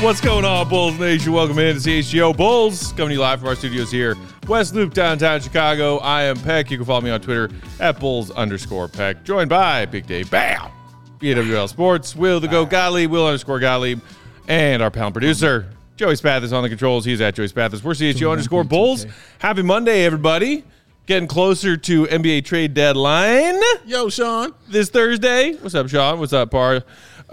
What's going on, Bulls Nation? Welcome in to CHGO Bulls, coming to you live from our studios here, West Loop, downtown Chicago. I am Peck. You can follow me on Twitter at Bulls_Peck. Joined by Big Dave Bam, BWL Sports, Will the Go Gottlieb, Will_Gottlieb, and our panel producer, Joey Spathis on the controls. He's at Joey Spathis. We're CHGO_Bulls. Happy Monday, everybody. Getting closer to NBA trade deadline. Yo, Sean. This Thursday. What's up, Sean? What's up, Par?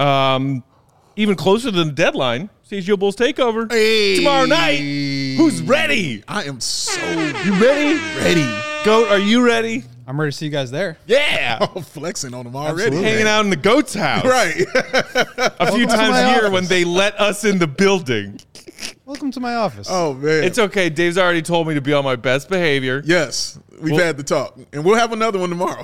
Even closer than the deadline, CHGO Bulls takeover tomorrow night. Who's ready? I am so You ready? ready. Goat, are you ready? I'm ready to see you guys there. Yeah. I'm flexing on them already. Hanging out in the Goat's house. Right. A few to times my a year office. when they let us in the building. Welcome to my office. Oh, man. It's okay. Dave's already told me to be on my best behavior. Yes. We've had the talk. And we'll have another one tomorrow.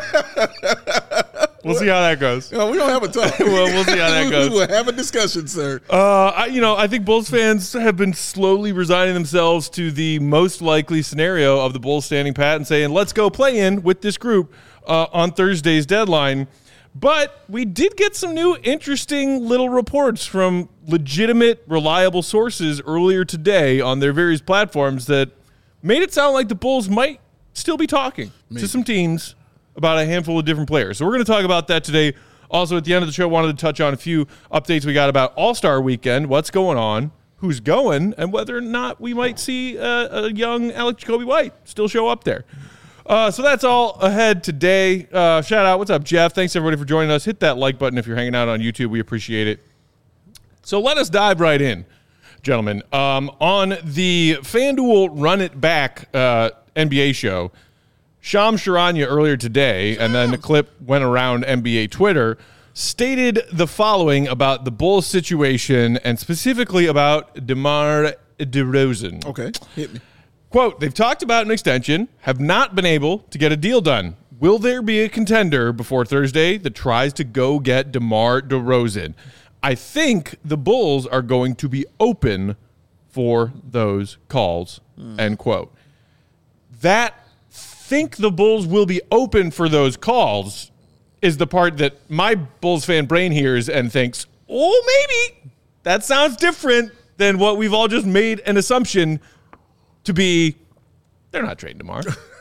We'll see how that goes. No, we don't have a talk. Well, we'll see how that goes. We'll have a discussion, sir. I think Bulls fans have been slowly resigning themselves to the most likely scenario of the Bulls standing pat and saying, let's go play in with this group on Thursday's deadline. But we did get some new interesting little reports from legitimate, reliable sources earlier today on their various platforms that made it sound like the Bulls might still be talking to some teams about a handful of different players. So we're going to talk about that today. Also, at the end of the show, wanted to touch on a few updates we got about All-Star Weekend, what's going on, who's going, and whether or not we might see a young Alex Jacoby White still show up there. So that's all ahead today. Shout out. What's up, Jeff? Thanks, everybody, for joining us. Hit that like button if you're hanging out on YouTube. We appreciate it. So let us dive right in, gentlemen. On the FanDuel Run It Back NBA show, Shams Charania earlier today, and then the clip went around NBA Twitter, stated the following about the Bulls situation and specifically about DeMar DeRozan. Okay. Hit me. Quote, they've talked about an extension, have not been able to get a deal done. Will there be a contender before Thursday that tries to go get DeMar DeRozan? I think the Bulls are going to be open for those calls, end quote. That think the Bulls will be open for those calls is the part that my Bulls fan brain hears and thinks, oh, maybe that sounds different than what we've all just made an assumption to be. They're not trading tomorrow.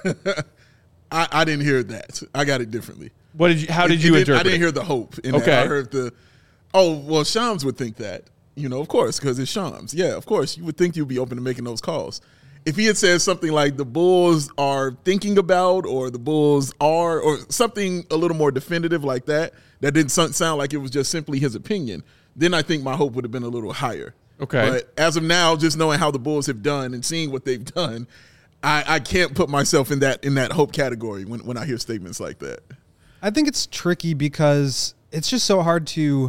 I didn't hear that. I got it differently. How did you interpret I didn't it? hear the hope in Okay. that. I heard Shams would think that. Of course, because it's Shams. Yeah, of course. You would think you'd be open to making those calls. If he had said something like the Bulls are thinking about or the Bulls are or something a little more definitive like that didn't sound like it was just simply his opinion, then I think my hope would have been a little higher. Okay. But as of now, just knowing how the Bulls have done and seeing what they've done, I can't put myself in that hope category when I hear statements like that. I think it's tricky because it's just so hard to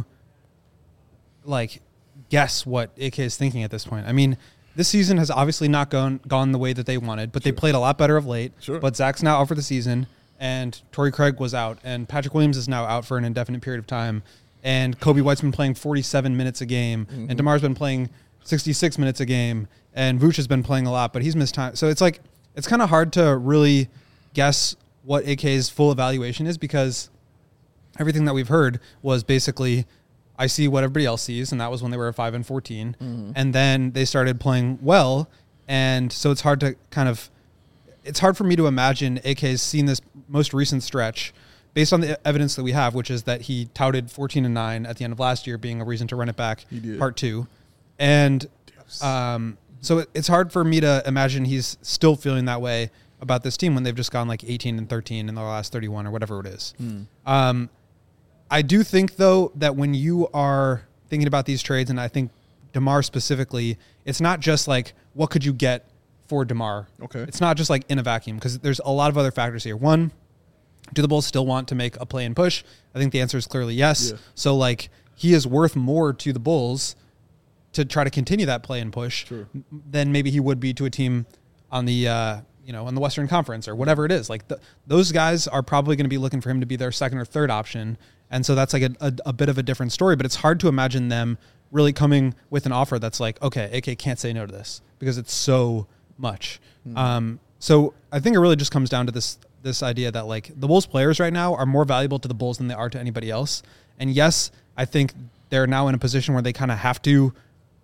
guess what AK is thinking at this point. I mean, this season has obviously not gone the way that they wanted, but they played a lot better of late. Sure. But Zach's now out for the season, and Torrey Craig was out, and Patrick Williams is now out for an indefinite period of time, and Kobe White's been playing 47 minutes a game, and DeMar's been playing 66 minutes a game, and Vooch has been playing a lot, but he's missed time. So it's kind of hard to really guess what AK's full evaluation is because everything that we've heard was basically I see what everybody else sees, and that was when they were 5-14, and then they started playing well, and so it's hard for me to imagine AK's seen this most recent stretch based on the evidence that we have, which is that he touted 14-9 at the end of last year being a reason to run it back part 2, and so it's hard for me to imagine he's still feeling that way about this team when they've just gone 18-13 in the last 31 or whatever it is. I do think, though, that when you are thinking about these trades, and I think DeMar specifically, it's not just what could you get for DeMar? Okay. It's not just in a vacuum because there's a lot of other factors here. One, do the Bulls still want to make a play and push? I think the answer is clearly yes. Yeah. So he is worth more to the Bulls to try to continue that play and push than maybe he would be to a team on the on the Western Conference or whatever it is. Those guys are probably going to be looking for him to be their second or third option. And so that's a bit of a different story, but it's hard to imagine them really coming with an offer that's okay, AK can't say no to this because it's so much. So I think it really just comes down to this idea that the Bulls players right now are more valuable to the Bulls than they are to anybody else. And yes, I think they're now in a position where they kind of have to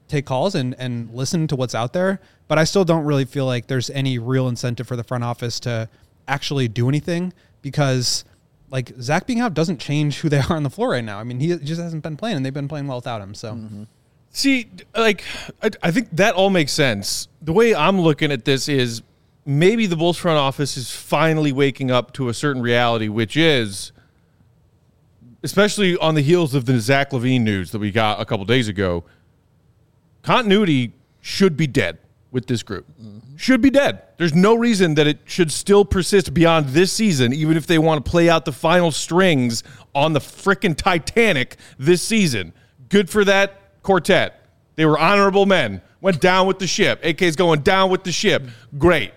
take calls and listen to what's out there. But I still don't really feel like there's any real incentive for the front office to actually do anything, because like Zach being out doesn't change who they are on the floor right now. I mean, he just hasn't been playing, and they've been playing well without him. So, See, like, I think that all makes sense. The way I'm looking at this is maybe the Bulls front office is finally waking up to a certain reality, which is, especially on the heels of the Zach LaVine news that we got a couple days ago, continuity should be dead with this group. Should be dead. There's no reason that it should still persist beyond this season, even if they want to play out the final strings on the frickin' Titanic this season. Good for that quartet. They were honorable men. Went down with the ship. AK's going down with the ship. Great.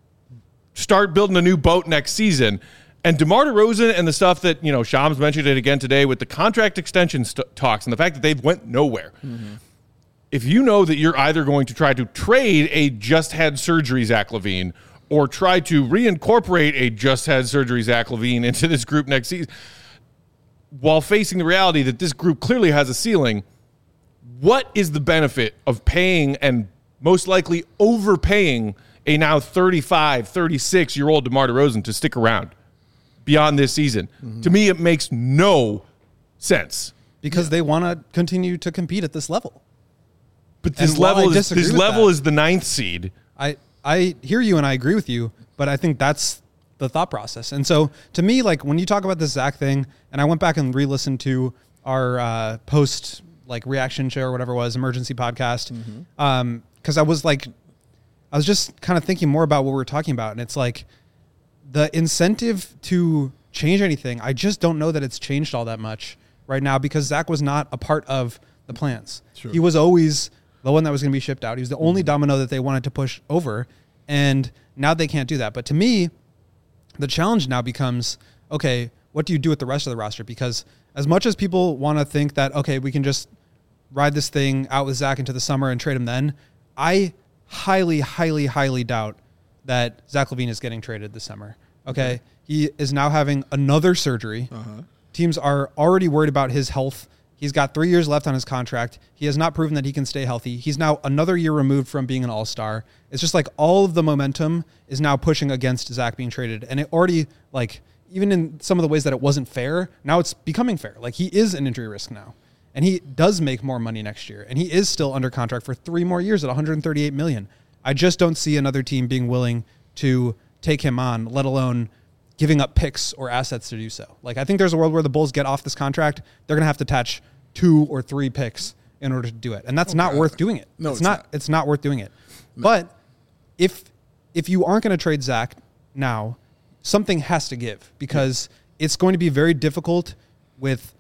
Start building a new boat next season. And DeMar DeRozan and the stuff that, you know, Shams mentioned it again today with the contract extension talks and the fact that they've went nowhere. If you know that you're either going to try to trade a just had surgery Zach LaVine or try to reincorporate a just had surgery Zach LaVine into this group next season, while facing the reality that this group clearly has a ceiling, what is the benefit of paying and most likely overpaying a now 35, 36-year-old DeMar DeRozan to stick around beyond this season? To me, it makes no sense. because they want to continue to compete at this level. But this level is the 9th seed. I hear you and I agree with you, but I think that's the thought process. And so to me, like when you talk about this Zach thing, and I went back and re-listened to our post like reaction show or whatever it was, emergency podcast. Cause I was just kind of thinking more about what we were talking about. And it's like the incentive to change anything, I just don't know that it's changed all that much right now because Zach was not a part of the plans. Sure. He was always the one that was going to be shipped out. He was the only domino that they wanted to push over. And now they can't do that. But to me, the challenge now becomes, okay, what do you do with the rest of the roster? Because as much as people want to think that, okay, we can just ride this thing out with Zach into the summer and trade him then, I highly, highly, highly doubt that Zach LaVine is getting traded this summer. Okay. He is now having another surgery. Teams are already worried about his health. He's got 3 years left on his contract. He has not proven that he can stay healthy. He's now another year removed from being an all-star. It's just like all of the momentum is now pushing against Zach being traded. And it already, like, even in some of the ways that it wasn't fair, now it's becoming fair. Like, he is an injury risk now. And he does make more money next year. And he is still under contract for 3 more years at $138 million. I just don't see another team being willing to take him on, let alone giving up picks or assets to do so. Like, I think there's a world where the Bulls get off this contract, they're going to have to attach 2 or 3 picks in order to do it. And that's not worth doing it. No, it's not worth doing it. No. But if you aren't going to trade Zach now, something has to give because it's going to be very difficult with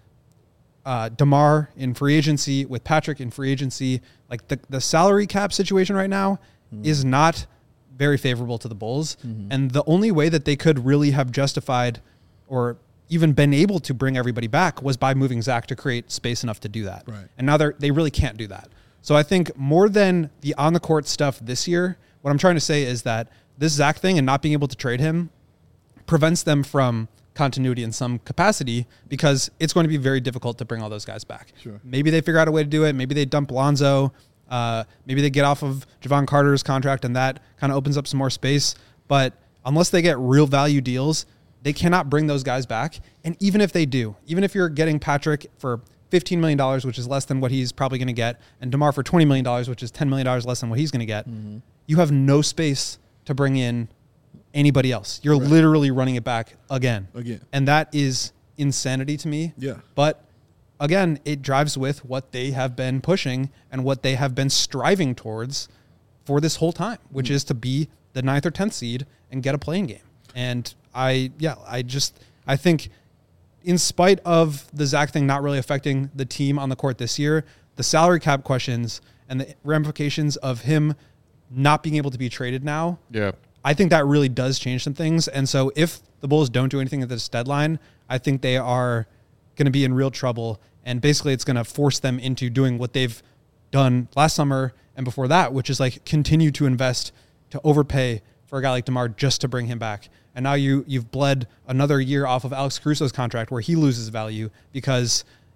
DeMar in free agency, with Patrick in free agency. Like the salary cap situation right now is not very favorable to the Bulls. And the only way that they could really have justified or even been able to bring everybody back was by moving Zach to create space enough to do that. Right. And now they really can't do that. So I think more than the on the court stuff this year, what I'm trying to say is that this Zach thing and not being able to trade him prevents them from continuity in some capacity because it's going to be very difficult to bring all those guys back. Sure. Maybe they figure out a way to do it. Maybe they dump Lonzo. Maybe they get off of Javon Carter's contract and that kind of opens up some more space. But unless they get real value deals, they cannot bring those guys back. And even if they do, even if you're getting Patrick for $15 million, which is less than what he's probably going to get, and DeMar for $20 million, which is $10 million less than what he's going to get, you have no space to bring in anybody else. You're literally running it back again. And that is insanity to me. Yeah. But again, it drives with what they have been pushing and what they have been striving towards for this whole time, which is to be the 9th or 10th seed and get a playing game. And I think in spite of the Zach thing not really affecting the team on the court this year, the salary cap questions and the ramifications of him not being able to be traded now, I think that really does change some things. And so if the Bulls don't do anything at this deadline, I think they are going to be in real trouble. And basically it's going to force them into doing what they've done last summer and before that, which is like continue to invest, to overpay for a guy like DeMar just to bring him back. And now you've bled another year off of Alex Caruso's contract where he loses value because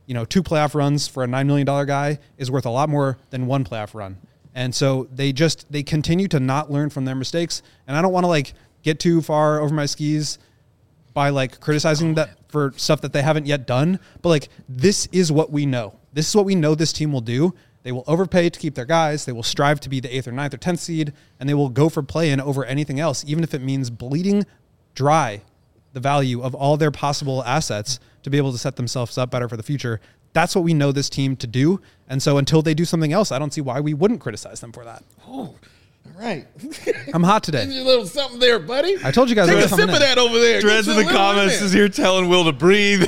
2 playoff runs for a $9 million guy is worth a lot more than 1 playoff run. And so they continue to not learn from their mistakes. And I don't want to like get too far over my skis by like criticizing that for stuff that they haven't yet done. But like, this is what we know. This is what we know this team will do. They will overpay to keep their guys. They will strive to be the 8th or 9th or 10th seed, and they will go for play-in over anything else, even if it means bleeding dry the value of all their possible assets to be able to set themselves up better for the future. That's what we know this team to do. And so until they do something else, I don't see why we wouldn't criticize them for that. Oh, all right. I'm hot today. There's a little something there, buddy. I told you guys. Take a sip of that over there. Dreads in the comments is here telling Will to breathe.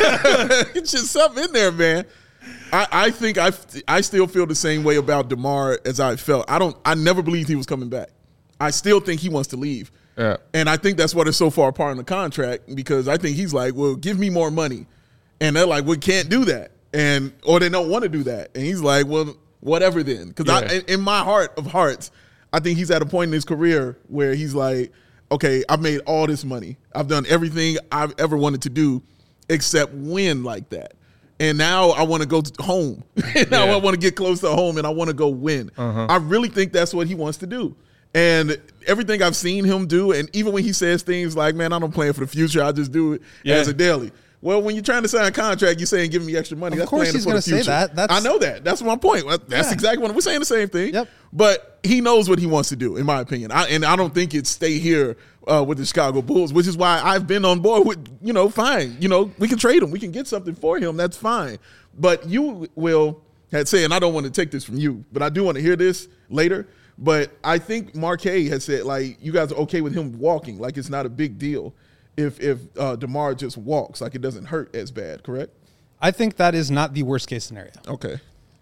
Get just something in there, man. I think I still feel the same way about DeMar as I felt. I never believed he was coming back. I still think he wants to leave. Yeah. And I think that's why they're so far apart in the contract, because I think he's like, well, give me more money. And they're like, we can't do that. Or they don't want to do that. And he's like, well, whatever then. Because in my heart of hearts, I think he's at a point in his career where he's like, okay, I've made all this money. I've done everything I've ever wanted to do except win like that. And now I want to go home. Now I want to get close to home, and I want to go win. I really think that's what he wants to do. And everything I've seen him do, and even when he says things like, man, I don't plan for the future, I just do it as a daily. Well, when you're trying to sign a contract, you're saying give me extra money. Of course he's going to say that. I know that. That's my point. That's exactly what we're saying, the same thing. Yep. But he knows what he wants to do, in my opinion. And I don't think it's stay here with the Chicago Bulls, which is why I've been on board with, fine. We can trade him. We can get something for him. That's fine. But you, Will, had said, and I don't want to take this from you, but I do want to hear this later. But I think Marquet has said, like, you guys are okay with him walking. Like, it's not a big deal if DeMar just walks. Like, it doesn't hurt as bad, correct? I think that is not the worst case scenario. Okay.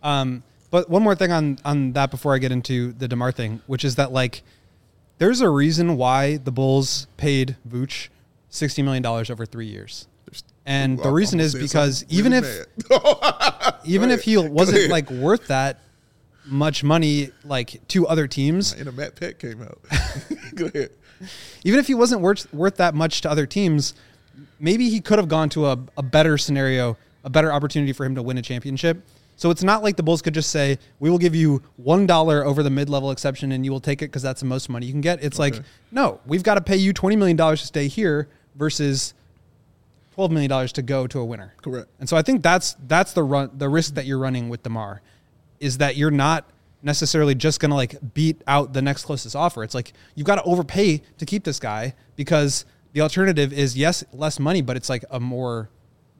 But one more thing on that before I get into the DeMar thing, which is that, like, there's a reason why the Bulls paid Vooch $60 million over 3 years. And the reason is because even if he wasn't like worth that much money, like to other teams. And a Matt Peck came out. Go ahead. Even if he wasn't worth that much to other teams, maybe he could have gone to a better scenario, a better opportunity for him to win a championship. So it's not like the Bulls could just say, we will give you $1 over the mid-level exception and you will take it because that's the most money you can get. It's like, no, we've got to pay you $20 million to stay here versus $12 million to go to a winner. Correct. And so I think that's the risk that you're running with DeMar, is that you're not necessarily just going to like beat out the next closest offer. It's like, you've got to overpay to keep this guy, because the alternative is, yes, less money, but it's like a more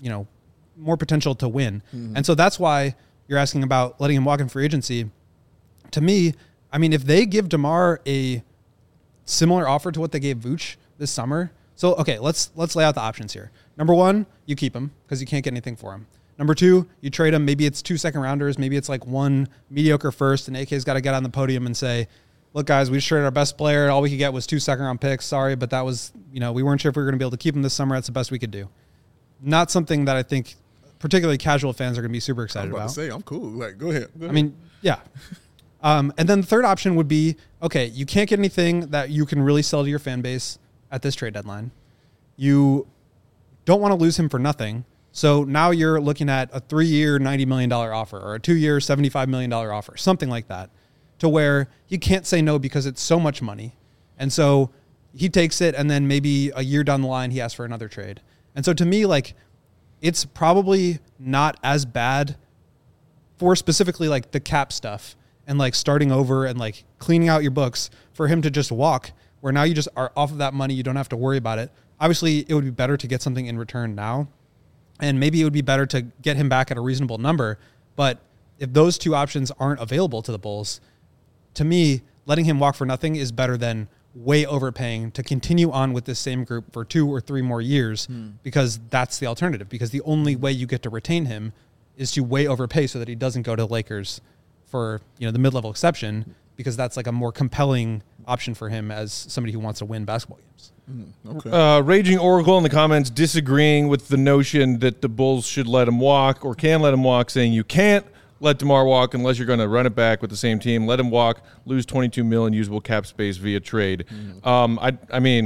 potential to win. Mm-hmm. And so that's why you're asking about letting him walk in free agency. To me, I mean, if they give DeMar a similar offer to what they gave Vooch this summer. So, okay, let's lay out the options here. Number one, you keep him because you can't get anything for him. Number two, you trade him. Maybe it's 2 second rounders. Maybe it's like 1 mediocre first, and AK's got to get on the podium and say, look, guys, we just traded our best player. All we could get was 2 second round picks. Sorry, but that was, we weren't sure if we were going to be able to keep him this summer. That's the best we could do. Not something that I think particularly casual fans are going to be super excited about. To say, I'm cool. Like, go ahead. I mean, yeah. And then the third option would be, okay, you can't get anything that you can really sell to your fan base at this trade deadline. You don't want to lose him for nothing. So now you're looking at a 3-year, $90 million offer, or a 2-year, $75 million offer, something like that, to where you can't say no because it's so much money. And so he takes it, and then maybe a year down the line, he asks for another trade. And so to me, like, it's probably not as bad for specifically like the cap stuff and like starting over and like cleaning out your books for him to just walk, where now you just are off of that money. You don't have to worry about it. Obviously, it would be better to get something in return now, and maybe it would be better to get him back at a reasonable number. But if those two options aren't available to the Bulls, to me, letting him walk for nothing is better than way overpaying to continue on with this same group for 2 or 3 more years, because that's the alternative. Because the only way you get to retain him is to way overpay so that he doesn't go to the Lakers for the mid-level exception, because that's like a more compelling option for him as somebody who wants to win basketball games. Okay. Raging Oracle in the comments disagreeing with the notion that the Bulls should let him walk or can let him walk, saying you can't let DeMar walk unless you're going to run it back with the same team. Let him walk, lose $22 million usable cap space via trade. I mean,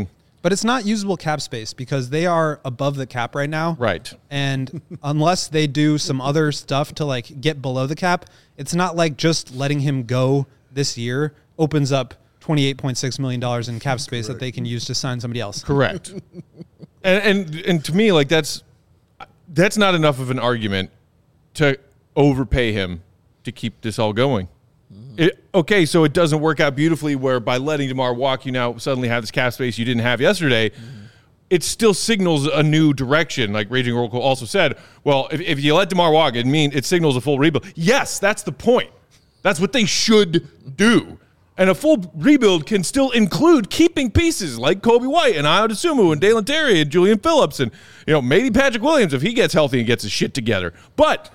But it's not usable cap space because they are above the cap right now. Right. And unless they do some other stuff to like get below the cap, it's not like just letting him go this year opens up $28.6 million in cap space that they can use to sign somebody else. Correct. and to me, like that's not enough of an argument to overpay him to keep this all going. Okay, so it doesn't work out beautifully where by letting DeMar walk, you now suddenly have this cap space you didn't have yesterday. It still signals a new direction. Like Raging Oracle also said, well, if you let DeMar walk, it signals a full rebuild. Yes, that's the point. That's what they should do. And a full rebuild can still include keeping pieces like Kobe White and Ayo Dosunmu and Dalen Terry and Julian Phillips and maybe Patrick Williams if he gets healthy and gets his shit together. But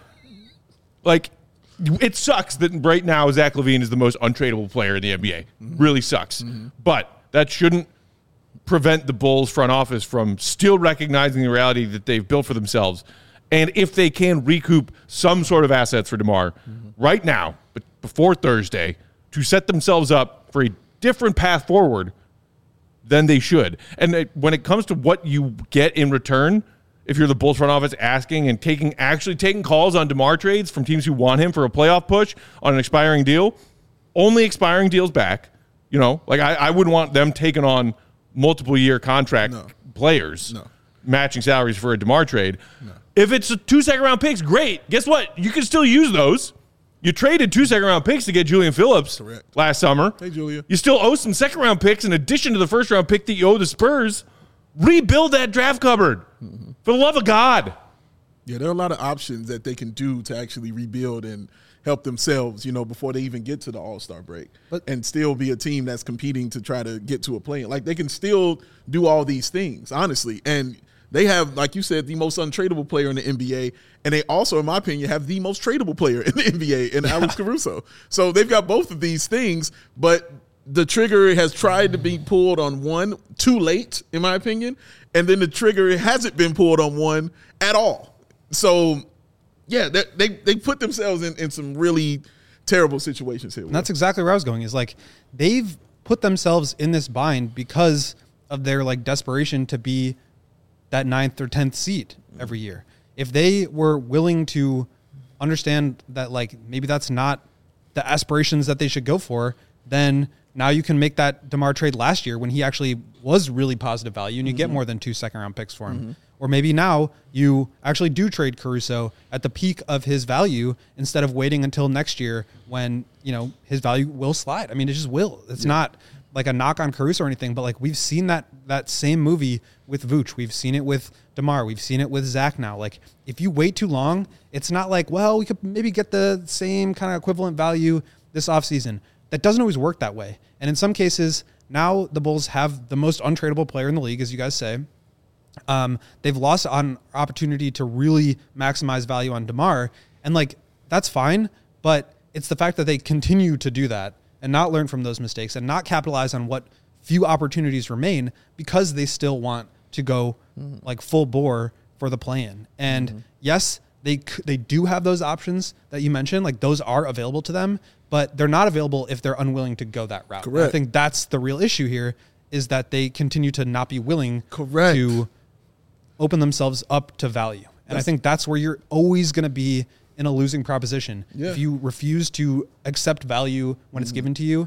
like, it sucks that right now Zach LaVine is the most untradeable player in the NBA. Really sucks. But that shouldn't prevent the Bulls front office from still recognizing the reality that they've built for themselves. And if they can recoup some sort of assets for DeMar right now, but before Thursday, to set themselves up for a different path forward, then they should. And when it comes to what you get in return, if you're the Bulls front office asking and actually taking calls on DeMar trades from teams who want him for a playoff push on an expiring deal, only expiring deals back. Like I wouldn't want them taking on multiple year contract players, matching salaries for a DeMar trade. If it's 2 second round picks, great. Guess what? You can still use those. You traded 2 second round picks to get Julian Phillips last summer. Hey, Julia. You still owe some second round picks in addition to the first round pick that you owe the Spurs. Rebuild that draft cupboard. For the love of God. Yeah, there are a lot of options that they can do to actually rebuild and help themselves, before they even get to the All-Star break and still be a team that's competing to try to get to a play-in. Like, they can still do all these things, honestly. And they have, like you said, the most untradeable player in the NBA. And they also, in my opinion, have the most tradable player in the NBA in Alex Caruso. So they've got both of these things, but the trigger has tried to be pulled on one too late, in my opinion. And then the trigger hasn't been pulled on one at all. So, yeah, they put themselves in some really terrible situations here. And that's exactly where I was going, is like they've put themselves in this bind because of their like desperation to be that 9th or 10th seed every year. If they were willing to understand that like maybe that's not the aspirations that they should go for, then now you can make that DeMar trade last year when he actually was really positive value and you get more than 2 second round picks for him. Or maybe now you actually do trade Caruso at the peak of his value instead of waiting until next year when, his value will slide. I mean, it just will. It's not like a knock on Caruso or anything, but like we've seen that same movie with Vooch. We've seen it with DeMar. We've seen it with Zach now. Like if you wait too long, it's not like, well, we could maybe get the same kind of equivalent value this offseason. That doesn't always work that way. And in some cases, now the Bulls have the most untradeable player in the league, as you guys say. They've lost on opportunity to really maximize value on DeMar. And like, that's fine, but it's the fact that they continue to do that and not learn from those mistakes and not capitalize on what few opportunities remain because they still want to go like full bore for the play-in. And yes, they do have those options that you mentioned. Like those are available to them, but they're not available if they're unwilling to go that route. Correct. I think that's the real issue here, is that they continue to not be willing to open themselves up to value. And I think that's where you're always going to be in a losing proposition. Yeah. If you refuse to accept value when it's given to you,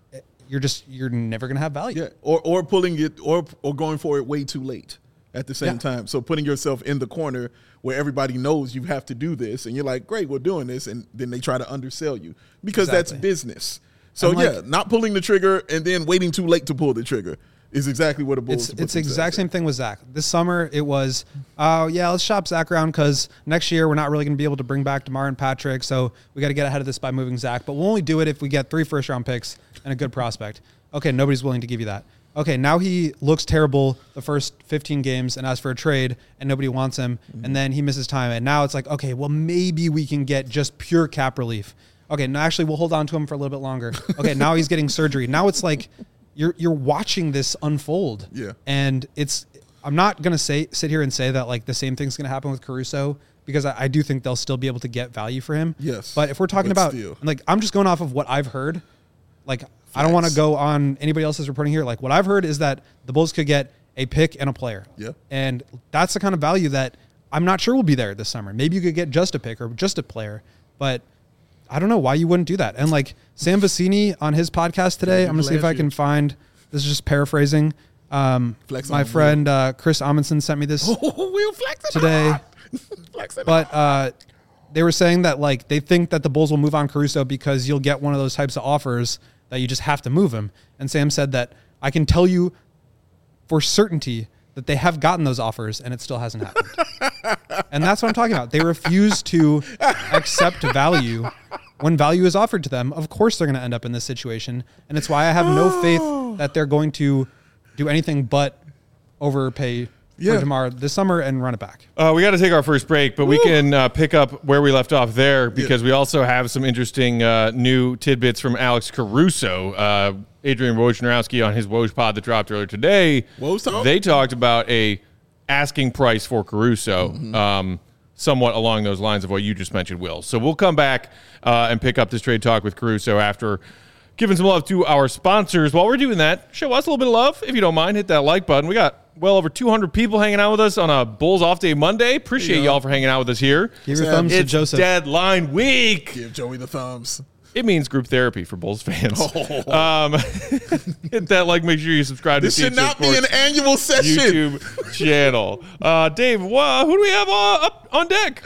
you're never going to have value. Yeah, or pulling it or going for it way too late at the same time. So putting yourself in the corner where everybody knows you have to do this, and you're like, great, we're doing this, and then they try to undersell you because that's business. So not pulling the trigger and then waiting too late to pull the trigger is exactly what the Bulls. It's the exact same thing with Zach. This summer it was, let's shop Zach around because next year we're not really going to be able to bring back DeMar and Patrick, so we got to get ahead of this by moving Zach. But we'll only do it if we get 3 first-round picks and a good prospect. Okay, nobody's willing to give you that. Okay, now he looks terrible the first 15 games and asks for a trade, and nobody wants him, and then he misses time. And now it's like, okay, well, maybe we can get just pure cap relief. Okay, no, actually, we'll hold on to him for a little bit longer. Okay, now he's getting surgery. Now it's like you're watching this unfold. Yeah. And I'm not going to sit here and say that like the same thing's going to happen with Caruso, because I do think they'll still be able to get value for him. Yes. But if we're talking about, like, I'm just going off of what I've heard. Like, I don't want to go on anybody else's reporting here. Like, what I've heard is that the Bulls could get a pick and a player. Yeah. And that's the kind of value that I'm not sure will be there this summer. Maybe you could get just a pick or just a player, but I don't know why you wouldn't do that. And like Sam Vecini on his podcast today, I'm going to see if I can find, this is just paraphrasing. My friend Chris Amundsen sent me this We'll flex today. But they were saying that like they think that the Bulls will move on Caruso because you'll get one of those types of offers that you just have to move him. And Sam said that I can tell you for certainty that they have gotten those offers and it still hasn't happened. And that's what I'm talking about. They refuse to accept value when value is offered to them. Of course they're going to end up in this situation. And it's why I have no faith that they're going to do anything but overpay for DeMar this summer and run it back. We got to take our first break, but we can pick up where we left off there because we also have some interesting new tidbits from Alex Caruso. Adrian Wojnarowski on his Woj pod that dropped earlier today. They talked about a asking price for Caruso, somewhat along those lines of what you just mentioned, Will. So we'll come back and pick up this trade talk with Caruso after giving some love to our sponsors. While we're doing that, show us a little bit of love. If you don't mind, hit that like button. We got well over 200 people hanging out with us on a Bulls Off Day Monday. Appreciate y'all for hanging out with us here. Give your thumbs to It's Joseph. deadline week. Give Joey the thumbs. It means group therapy for Bulls fans. Hit that like. Make sure you subscribe This to should CHS not be an Sports annual session. YouTube channel. Dave, who do we have up on deck?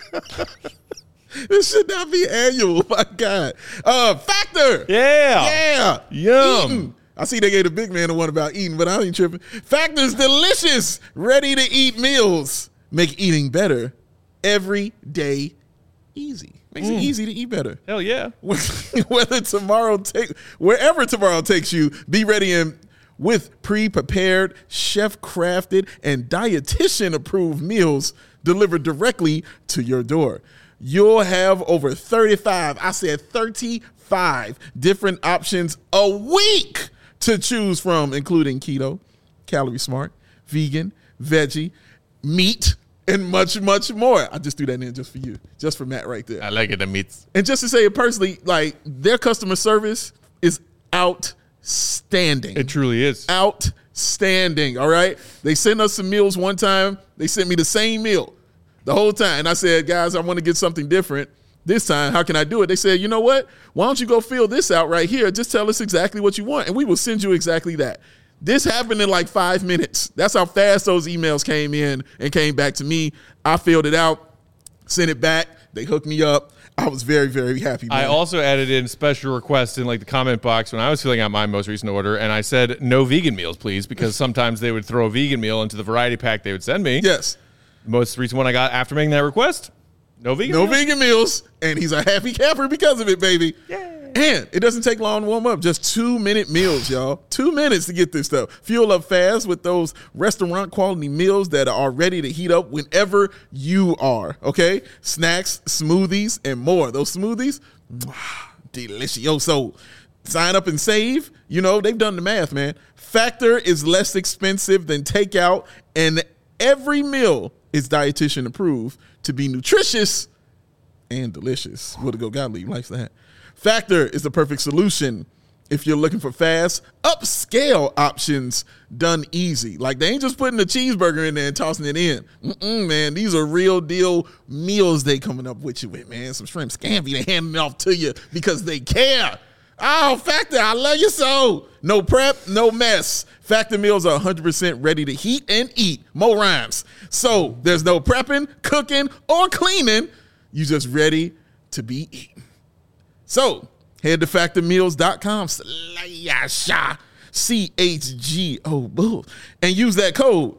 This should not be annual. My God. Factor. Yeah. Yum. Eaton. I see they gave the big man the one about eating, but I ain't tripping. Factor's delicious, ready-to-eat meals. Make eating better every day easy. Makes it easy to eat better. Hell yeah. Wherever tomorrow takes you, be ready and with pre-prepared, chef-crafted, and dietitian-approved meals delivered directly to your door. You'll have over 35 different options a week to choose from, including keto, calorie smart, vegan, veggie, meat, and much, much more. I just threw that in just for you, just for Matt right there. I like it, the meats. And just to say it personally, like their customer service is outstanding. It truly is. Outstanding, all right? They sent us some meals one time. They sent me the same meal the whole time. And I said, guys, I want to get something different this time. How can I do it? They said, you know what? Why don't you go fill this out right here? Just tell us exactly what you want, and we will send you exactly that. This happened in like 5 minutes. That's how fast those emails came in and came back to me. I filled it out, sent it back. They hooked me up. I was very, very happy, man. I also added in special requests in like the comment box when I was filling out my most recent order, and I said no vegan meals, please, because sometimes they would throw a vegan meal into the variety pack they would send me. Yes. The most recent one I got after making that request, no vegan No meals. vegan meals, and he's a happy camper because of it, baby. Yay. And it doesn't take long to warm up. Just 2-minute meals, y'all. 2 minutes to get this stuff. Fuel up fast with those restaurant quality meals that are ready to heat up whenever you are, okay? Snacks, smoothies, and more. Those smoothies, delicioso. Sign up and save. You know, they've done the math, man. Factor is less expensive than takeout, and every meal is dietitian approved to be nutritious and delicious. What a go Gottlieb likes that. Factor is the perfect solution if you're looking for fast, upscale options done easy. Like they ain't just putting a cheeseburger in there and tossing it in. Man, these are real deal meals they coming up with you with, man. Some shrimp scampi, they handing it off to you because they care. Oh, Factor, I love you so. No prep, no mess. Factor meals are 100% ready to heat and eat. Mo rhymes. So there's no prepping, cooking, or cleaning. You just ready to be eaten. So head to factormeals.com/CHGO Bulls and use that code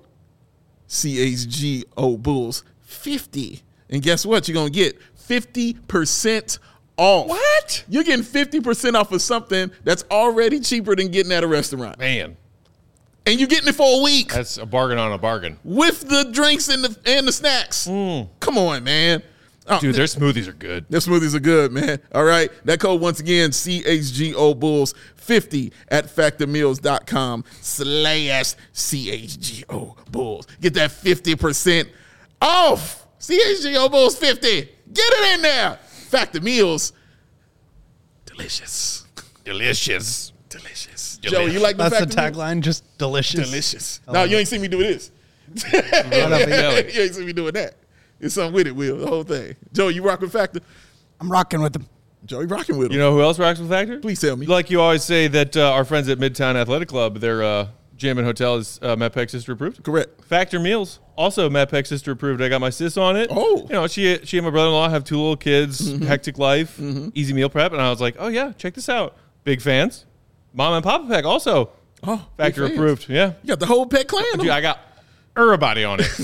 CHGO Bulls 50. And guess what? You're going to get 50% off. What? You're getting 50% off of something that's already cheaper than getting at a restaurant. Man, And you're getting it for a week that's a bargain on a bargain. with the drinks and the snacks. Come on, man. Oh, Dude, their smoothies are good. their smoothies are good, man. All right. That code, once again, CHGO Bulls 50 at factormeals.com/CHGO Bulls. Get that 50% off. CHGO Bulls 50. Get it in there. Factor Meals. Delicious. Delicious. Delicious. Joe, you like the That's the Factor meals? tagline. Just delicious. Delicious. No, you ain't seen me do this. Right off the belly. You ain't seen me doing that. It's something with it, Will. The whole thing. Joe, you rock with Factor? I'm rocking with them. Joe, you rocking with him? You know who else rocks with Factor? Please tell me. Like you always say that our friends at Midtown Athletic Club, their gym and hotel is MedPAC Sister approved. Correct. Factor Meals, also MedPAC Sister approved. I got my sis on it. Oh. You know, she and my brother-in-law have 2 little kids, hectic life, easy meal prep. And I was like, oh, yeah, check this out. Big fans. Mom and Papa Pack also Oh, Factor big fans. approved. Yeah. You got the whole pet clan. Dude, I got everybody on it.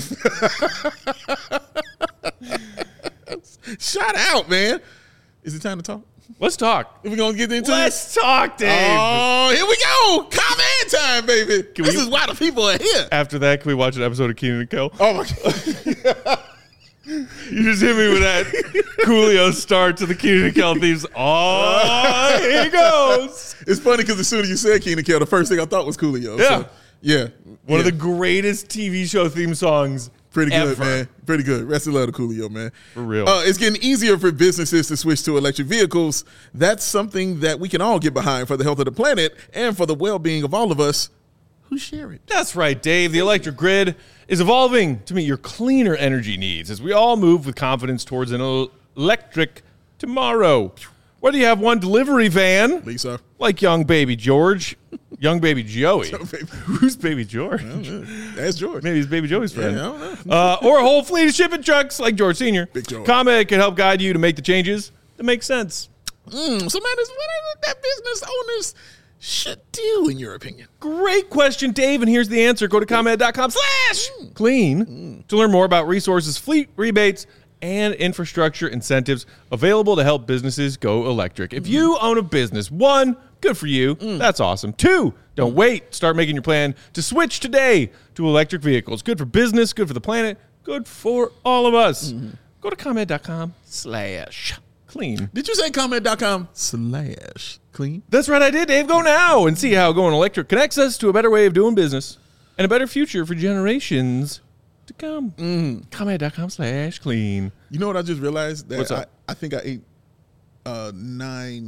Shout out, man. Is it time to talk? Let's talk. Are we going to get into Let's talk, Dave. Oh, here we go. Comment time, baby. This is why the people are here. After that, can we watch an episode of Keenan and Kel? Oh, my God. You just hit me with that Coolio start to the Keenan and Kel themes. Oh, here he goes. It's funny because as soon as you said Keenan Kel, the first thing I thought was Coolio. Yeah. So, yeah. One of the greatest TV show theme songs. Pretty good, ever. man. Pretty good. Rest of love to Coolio, man. For real. It's getting easier for businesses to switch to electric vehicles. That's something that we can all get behind for the health of the planet and for the well-being of all of us who share it. That's right, Dave. The electric grid is evolving to meet your cleaner energy needs as we all move with confidence towards an electric tomorrow. Whether you have one delivery van, Lisa. like young baby George, young baby Joey. baby. Who's baby George? That's George. Maybe he's baby Joey's friend. Yeah, I don't know. Or a whole fleet of shipping trucks like George Sr. Big George. ComEd can help guide you to make the changes that make sense. So, man, what is it that business owners should do, in your opinion? Great question, Dave, and here's the answer. Go to ComEd.com/clean to learn more about resources, fleet rebates, and infrastructure incentives available to help businesses go electric. If you own a business, 1, good for you. That's awesome. 2, don't wait. Start making your plan to switch today to electric vehicles. Good for business, good for the planet, good for all of us. Go to ComEd.com/clean. Did you say comment.com/clean? That's right, I did, Dave. Go now and see how going electric connects us to a better way of doing business and a better future for generations to come. ComEd.com/clean. You know what I just realized? That What's up? I think I ate 9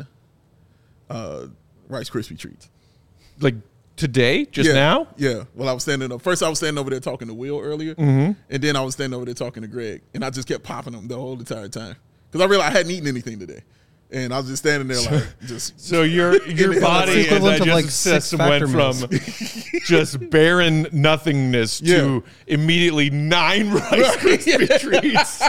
Rice Krispie treats. Like today, just now? Yeah. Well, I was standing up. First, I was standing over there talking to Will earlier, and then I was standing over there talking to Greg, and I just kept popping them the whole entire time because I realized I hadn't eaten anything today, and I was just standing there like just. So your body and equivalent of, like, digestive 6 system went Factor from just barren nothingness to immediately 9 Rice Krispie treats.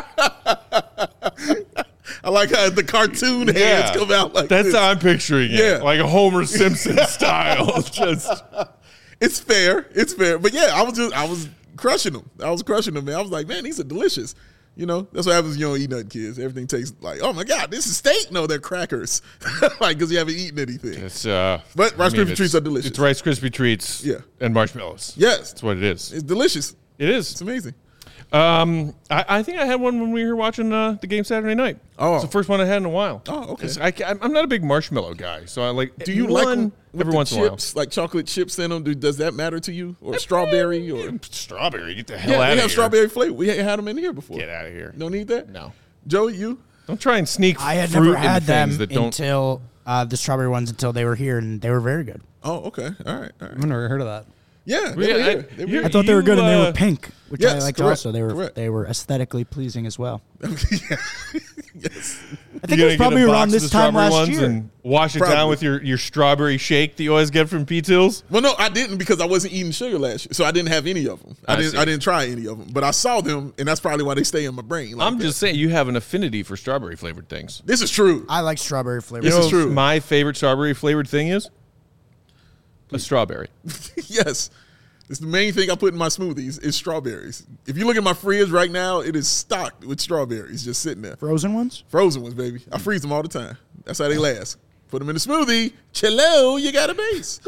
I like how the cartoon hands come out like That's this. how I'm picturing it. Yeah. Like a Homer Simpson style. Just It's fair. It's fair. But yeah, I was crushing them. I was crushing them, man. I was like, man, these are delicious. You know, that's what happens when you don't eat nothing, kids. Everything tastes like, oh my God, this is steak. No, they're crackers. Like, because you haven't eaten anything. it's But Rice Krispie treats are delicious. It's Rice Krispie treats and marshmallows. Yes. That's what it is. It's delicious. It is. It's amazing. I think I had one when we were watching the game Saturday night. Oh. It's the first one I had in a while. Oh, okay. 'Cause I'm not a big marshmallow guy, so I like. Do you one like them with every the once in a while? chips, like chocolate chips in them? Does that matter to you? Or strawberry? Or Strawberry? Get the hell yeah, out we of here! have strawberry flavor. We had them in here before. Get out of here! Don't need that? No. Joey, you? Don't try and sneak. I had fruit never into had them things that don't. until the strawberry ones until they were here, and they were very good. Oh, okay. All right. I've never heard of that. Yeah, Yeah, they were I- here. They were you- here. I thought they were good, and they were pink, which I yes, liked correct, also. correct. They were aesthetically pleasing as well. Yes. I think it was probably around this time last year. And wash it Probably. down with your strawberry shake that you always get from P-Tools. Well, no, I didn't because I wasn't eating sugar last year, so I didn't have any of them. I see. didn't try any of them, but I saw them, and that's probably why they stay in my brain. Like I'm that. just saying you have an affinity for strawberry flavored things. This is true. I like strawberry flavor. This You know is true. what my favorite strawberry flavored thing is? A strawberry. Yes. It's the main thing I put in my smoothies is strawberries. If you look at my fridge right now, it is stocked with strawberries just sitting there. Frozen ones? Frozen ones, baby. I freeze them all the time. That's how they last. Put them in the smoothie. Cello, you got a base.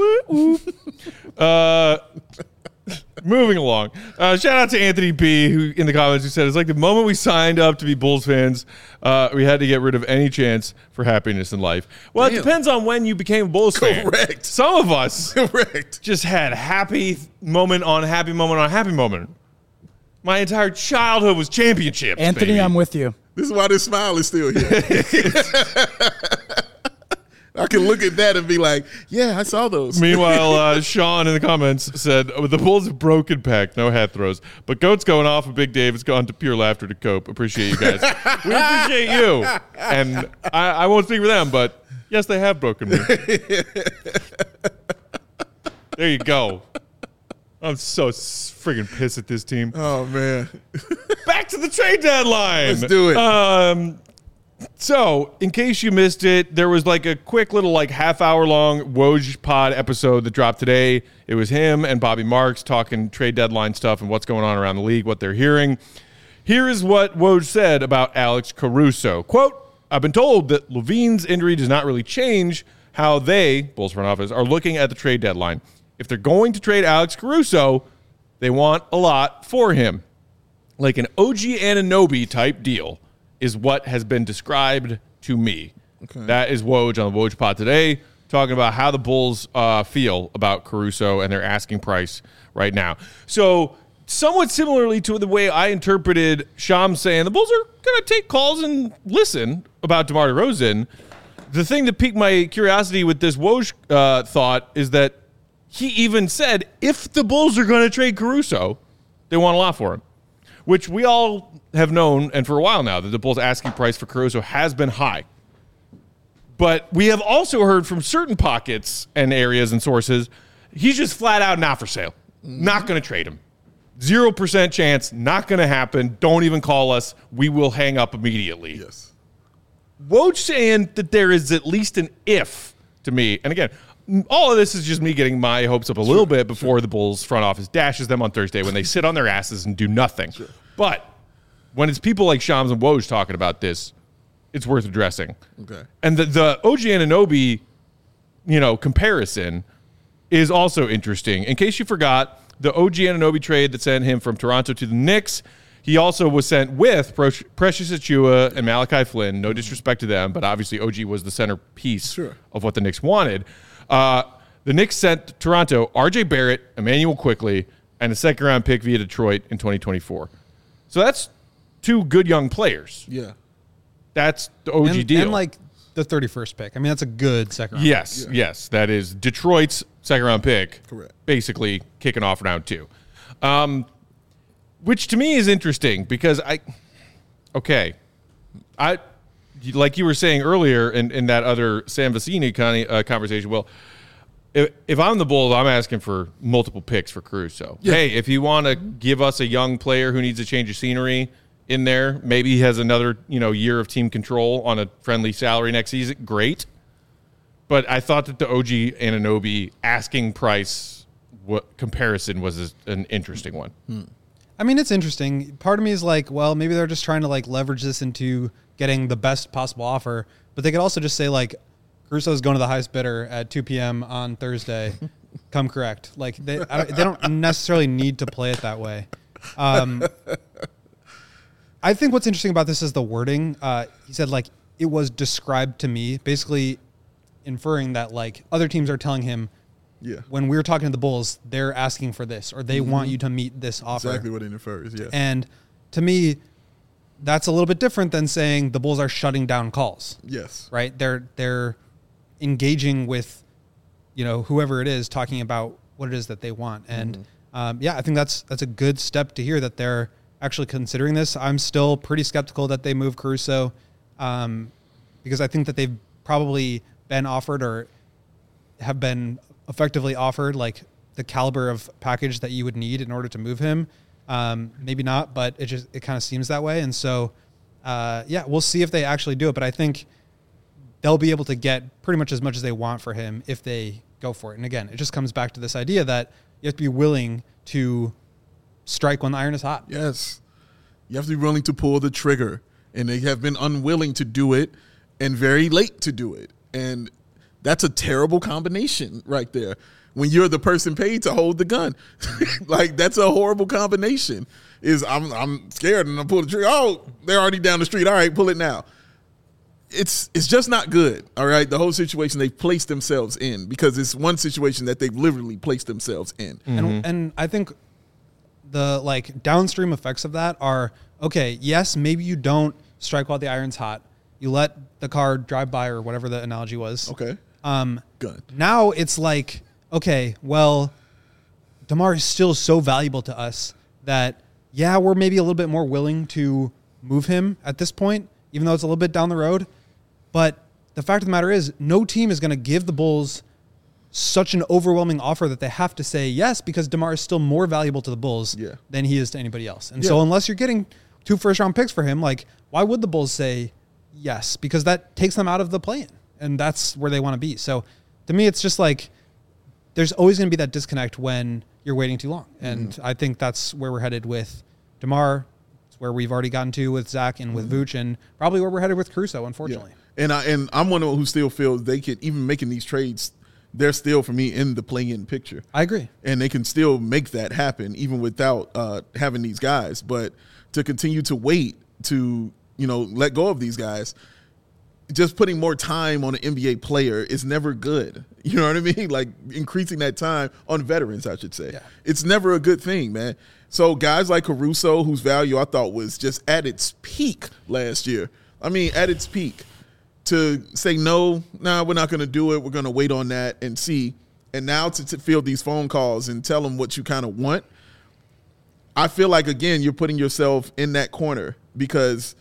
Moving along. Shout out to Anthony B, who in the comments who said it's like the moment we signed up to be Bulls fans, we had to get rid of any chance for happiness in life. Well, it Damn. depends on when you became a Bulls fan. Correct. Some of us Correct. just had happy moment on happy moment on happy moment. My entire childhood was championships. Anthony, baby. I'm with you. This is why this smile is still here. I can look at that and be like, yeah, I saw those. Meanwhile, Sean in the comments said, the Bulls have broken pack, no hat throws. But Goat's going off and Big Dave has gone to pure laughter to cope. Appreciate you guys. We appreciate you. And I won't speak for them, but yes, they have broken me. There you go. I'm so friggin' pissed at this team. Oh, man. Back to the trade deadline. Let's do it. So, in case you missed it, there was like a quick little half-hour long Woj pod episode that dropped today. It was him and Bobby Marks talking trade deadline stuff and what's going on around the league, what they're hearing. Here is what Woj said about Alex Caruso. Quote, I've been told that Levine's injury does not really change how they, Bulls front office, are looking at the trade deadline. If they're going to trade Alex Caruso, they want a lot for him. Like an OG Anunoby type deal is what has been described to me. Okay. That is Woj on the Woj pod today, talking about how the Bulls feel about Caruso and their asking price right now. So somewhat similarly to the way I interpreted Sham saying the Bulls are going to take calls and listen about DeMar DeRozan, the thing that piqued my curiosity with this Woj thought is that he even said if the Bulls are going to trade Caruso, they want a lot for him, which we all have known, and for a while now, that the Bulls' asking price for Caruso has been high. But we have also heard from certain pockets and areas and sources, he's just flat out not for sale. Not going to trade him. 0% chance, not going to happen. Don't even call us. We will hang up immediately. Yes. Woj saying that there is at least an if to me, and again, all of this is just me getting my hopes up a little bit before the Bulls front office dashes them on Thursday when they sit on their asses and do nothing. Sure. But when it's people like Shams and Woj talking about this, it's worth addressing. Okay. And the OG Anunoby, comparison is also interesting. In case you forgot, the OG Anunoby trade that sent him from Toronto to the Knicks, he also was sent with Precious Achiuwa and Malachi Flynn. No disrespect to them, but obviously OG was the centerpiece of what the Knicks wanted. The Knicks sent Toronto RJ Barrett, Emmanuel Quickley, and a second-round pick via Detroit in 2024. So that's two good young players. Yeah. That's the OG deal. And like the 31st pick. I mean, that's a good second round pick. Yes. That is Detroit's second-round pick. Correct. Basically kicking off round 2. Which to me is interesting because like you were saying earlier in that other Sam Vecini conversation, well, if I'm the Bulls, I'm asking for multiple picks for Caruso. Yeah. Hey, if you want to give us a young player who needs a change of scenery in there, maybe he has another year of team control on a friendly salary next season, great. But I thought that the OG Anunoby asking price comparison was an interesting one. I mean, it's interesting. Part of me is like, well, maybe they're just trying to leverage this into getting the best possible offer. But they could also just say Caruso is going to the highest bidder at 2 p.m. on Thursday. Come correct. They don't necessarily need to play it that way. I think what's interesting about this is the wording. He said it was described to me, basically inferring that other teams are telling him, when we're talking to the Bulls, they're asking for this, or they want you to meet this offer. Exactly what it infers, yes. And to me, that's a little bit different than saying the Bulls are shutting down calls. Yes. Right? They're engaging with, whoever it is, talking about what it is that they want. And I think that's a good step to hear that they're actually considering this. I'm still pretty skeptical that they move Caruso because I think that they've probably been offered or have been effectively offered the caliber of package that you would need in order to move him. Maybe not, but it kind of seems that way. And so, we'll see if they actually do it. But I think they'll be able to get pretty much as they want for him if they go for it. And again, it just comes back to this idea that you have to be willing to strike when the iron is hot. Yes. You have to be willing to pull the trigger. And they have been unwilling to do it and very late to do it. And that's a terrible combination right there. When you're the person paid to hold the gun, that's a horrible combination. I'm scared and I pull the trigger. Oh, they're already down the street. All right, pull it now. It's just not good. All right, the whole situation they've placed themselves in because it's one situation that they've literally placed themselves in. Mm-hmm. And I think the downstream effects of that are okay. Yes, maybe you don't strike while the iron's hot. You let the car drive by or whatever the analogy was. Okay. Gun. Now it's like, okay, well, DeMar is still so valuable to us that, yeah, we're maybe a little bit more willing to move him at this point, even though it's a little bit down the road. But the fact of the matter is, no team is going to give the Bulls such an overwhelming offer that they have to say yes, because DeMar is still more valuable to the Bulls than he is to anybody else. And so unless you're getting 2 first-round picks for him, like, why would the Bulls say yes? Because that takes them out of the play-in, and that's where they want to be. So to me, it's just like there's always going to be that disconnect when you're waiting too long. And I think that's where we're headed with DeMar. It's where we've already gotten to with Zach and with Vooch, and probably where we're headed with Caruso, unfortunately. Yeah. And I'm one of them who still feels they could, even making these trades, they're still, for me, in the play-in picture. I agree. And they can still make that happen even without having these guys. But to continue to wait to, let go of these guys, just putting more time on an NBA player is never good. You know what I mean? Like increasing that time on veterans, I should say. Yeah. It's never a good thing, man. So guys like Caruso, whose value I thought was just at its peak last year. I mean, at its peak. To say, we're not going to do it. We're going to wait on that and see. And now to field these phone calls and tell them what you kind of want, I feel like, again, you're putting yourself in that corner because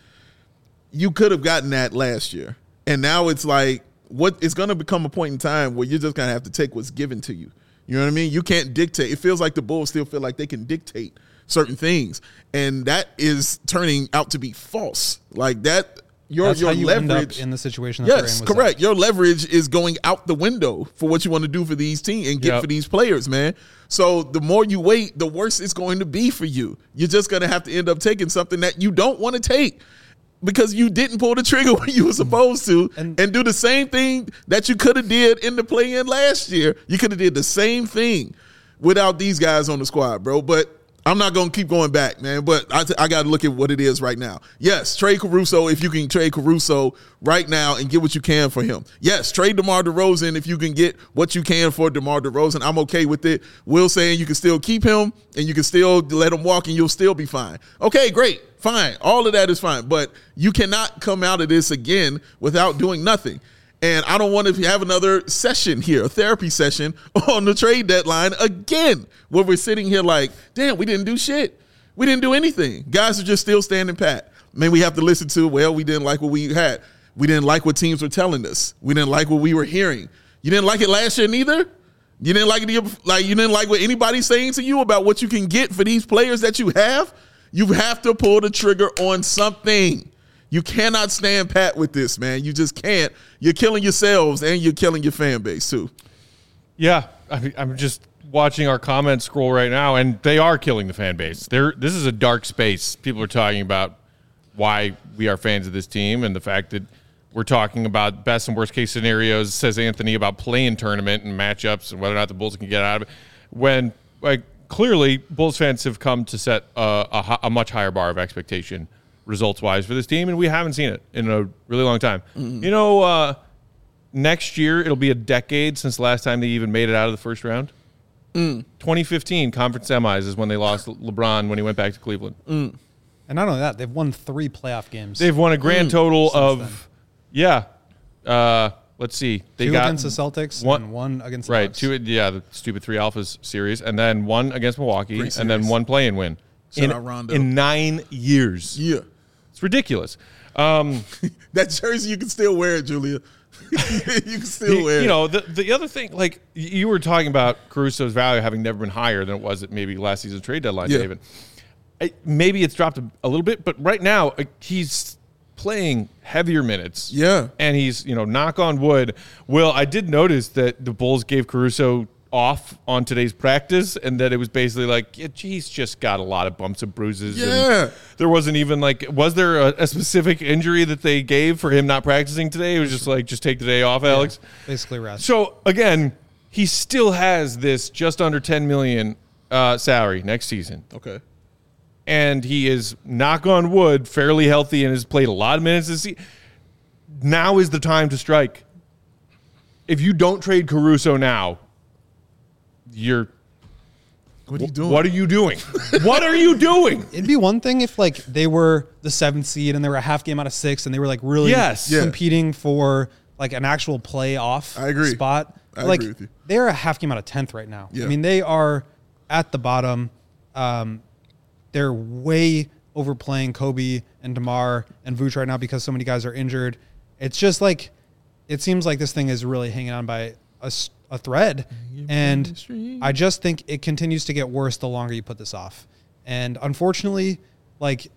you could have gotten that last year. And now it's like it's going to become a point in time where you're just going to have to take what's given to you. You know what I mean? You can't dictate. It feels like the Bulls still feel like they can dictate certain things. And that is turning out to be false. Like that. That's your how you leverage end up in the situation that they're in. Yes, with correct. Zach. Your leverage is going out the window for what you want to do for these teams and get for these players, man. So the more you wait, the worse it's going to be for you. You're just going to have to end up taking something that you don't want to take because you didn't pull the trigger when you were supposed to and do the same thing that you could have did in the play-in last year. You could have did the same thing without these guys on the squad, bro. But I'm not going to keep going back, man, but I got to look at what it is right now. Yes, trade Caruso if you can trade Caruso right now and get what you can for him. Yes, trade DeMar DeRozan if you can get what you can for DeMar DeRozan. I'm okay with it. Will saying you can still keep him and you can still let him walk and you'll still be fine. Okay, great, fine. All of that is fine, but you cannot come out of this again without doing nothing. And I don't want to have another session here, a therapy session on the trade deadline again, where we're sitting here like, damn, we didn't do shit. We didn't do anything. Guys are just still standing pat. Man, we have to listen to, we didn't like what we had. We didn't like what teams were telling us. We didn't like what we were hearing. You didn't like it last year neither? You didn't like it, you didn't like what anybody's saying to you about what you can get for these players that you have? You have to pull the trigger on something. You cannot stand pat with this, man. You just can't. You're killing yourselves and you're killing your fan base too. Yeah, I'm just watching our comments scroll right now, and they are killing the fan base. This is a dark space. People are talking about why we are fans of this team and the fact that we're talking about best and worst case scenarios, says Anthony, about play-in tournament and matchups and whether or not the Bulls can get out of it. When, clearly, Bulls fans have come to set a much higher bar of expectation results-wise for this team, and we haven't seen it in a really long time. Mm-hmm. Next year, it'll be a decade since the last time they even made it out of the first round. 2015 conference semis is when they lost LeBron when he went back to Cleveland. And not only that, they've won 3 playoff games. They've won a grand total of, let's see. They 2 got against the Celtics and 1 against the Bucks. 2, the stupid 3 Alphas series, and then 1 against Milwaukee, and then 1 play-in win. In 9 years. Yeah. It's ridiculous. That jersey, you can still wear it, Julia. You can still wear it. The other thing, like you were talking about Caruso's value having never been higher than it was at maybe last season's trade deadline, David. Maybe it's dropped a little bit, but right now he's playing heavier minutes. Yeah. And he's, knock on wood. Will, I did notice that the Bulls gave Caruso off on today's practice, and that it was basically like, he's just got a lot of bumps and bruises. Yeah. And there wasn't even was there a specific injury that they gave for him not practicing today? It was just just take the day off, Alex. Basically rest. So again, he still has this just under $10 million salary next season. Okay. And he is, knock on wood, fairly healthy and has played a lot of minutes this season. Now is the time to strike. If you don't trade Caruso now, what are you doing? What are you doing? What are you doing? It'd be one thing if they were the 7th seed and they were a half game out of 6 and they were really competing for like an actual playoff I agree. spot. I like, agree with you. They're a half game out of 10th right now. Yeah. I mean, they are at the bottom. They're way overplaying Kobe and DeMar and Vooch right now because so many guys are injured. It's just like, it seems like this thing is really hanging on by a thread. And I just think it continues to get worse the longer you put this off. And unfortunately, like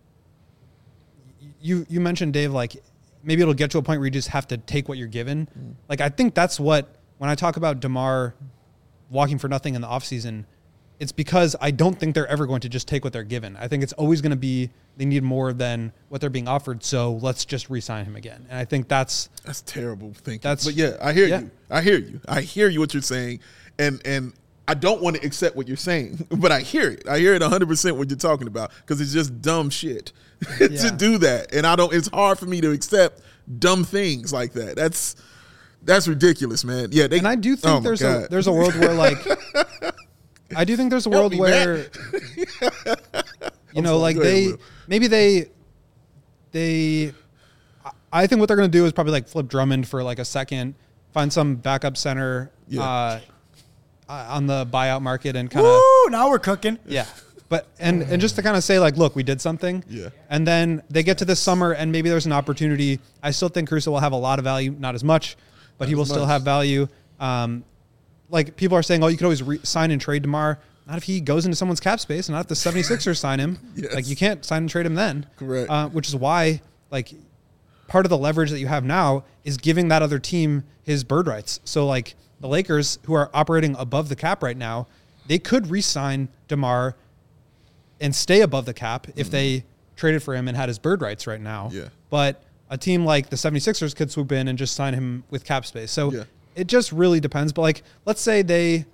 you mentioned, Dave, like maybe it'll get to a point where you just have to take what you're given. Like, I think that's what, when I talk about DeMar walking for nothing in the offseason, it's because I don't think they're ever going to just take what they're given. I think it's always going to be they need more than what they're being offered, so let's just re-sign him again. And I think that's terrible thinking. But yeah, I hear you. I hear you what you're saying, and I don't want to accept what you're saying, but I hear it. I hear it 100% what you're talking about because it's just dumb shit to do that, and I don't. It's hard for me to accept dumb things like that. That's ridiculous, man. Yeah, and I do think there's a world where like. I do think there's a world where, you know, like I think what they're going to do is probably like flip Drummond for like a second, find some backup center on the buyout market and kind of. Woo, now we're cooking. Yeah. But, and just to kind of say like, look, we did something. Yeah. And then they get to this summer and maybe there's an opportunity. I still think Caruso will have a lot of value, not as much, but he will still have value. Like people are saying, oh, you could always sign and trade DeMar. Not if he goes into someone's cap space, and not if the 76ers sign him. Yes. Like you can't sign and trade him then. Correct. Which is why, like, part of the leverage that you have now is giving that other team his bird rights. So like the Lakers, who are operating above the cap right now, they could re-sign DeMar and stay above the cap if they traded for him and had his bird rights right now. Yeah. But a team like the 76ers could swoop in and just sign him with cap space. So it just really depends. But like, let's say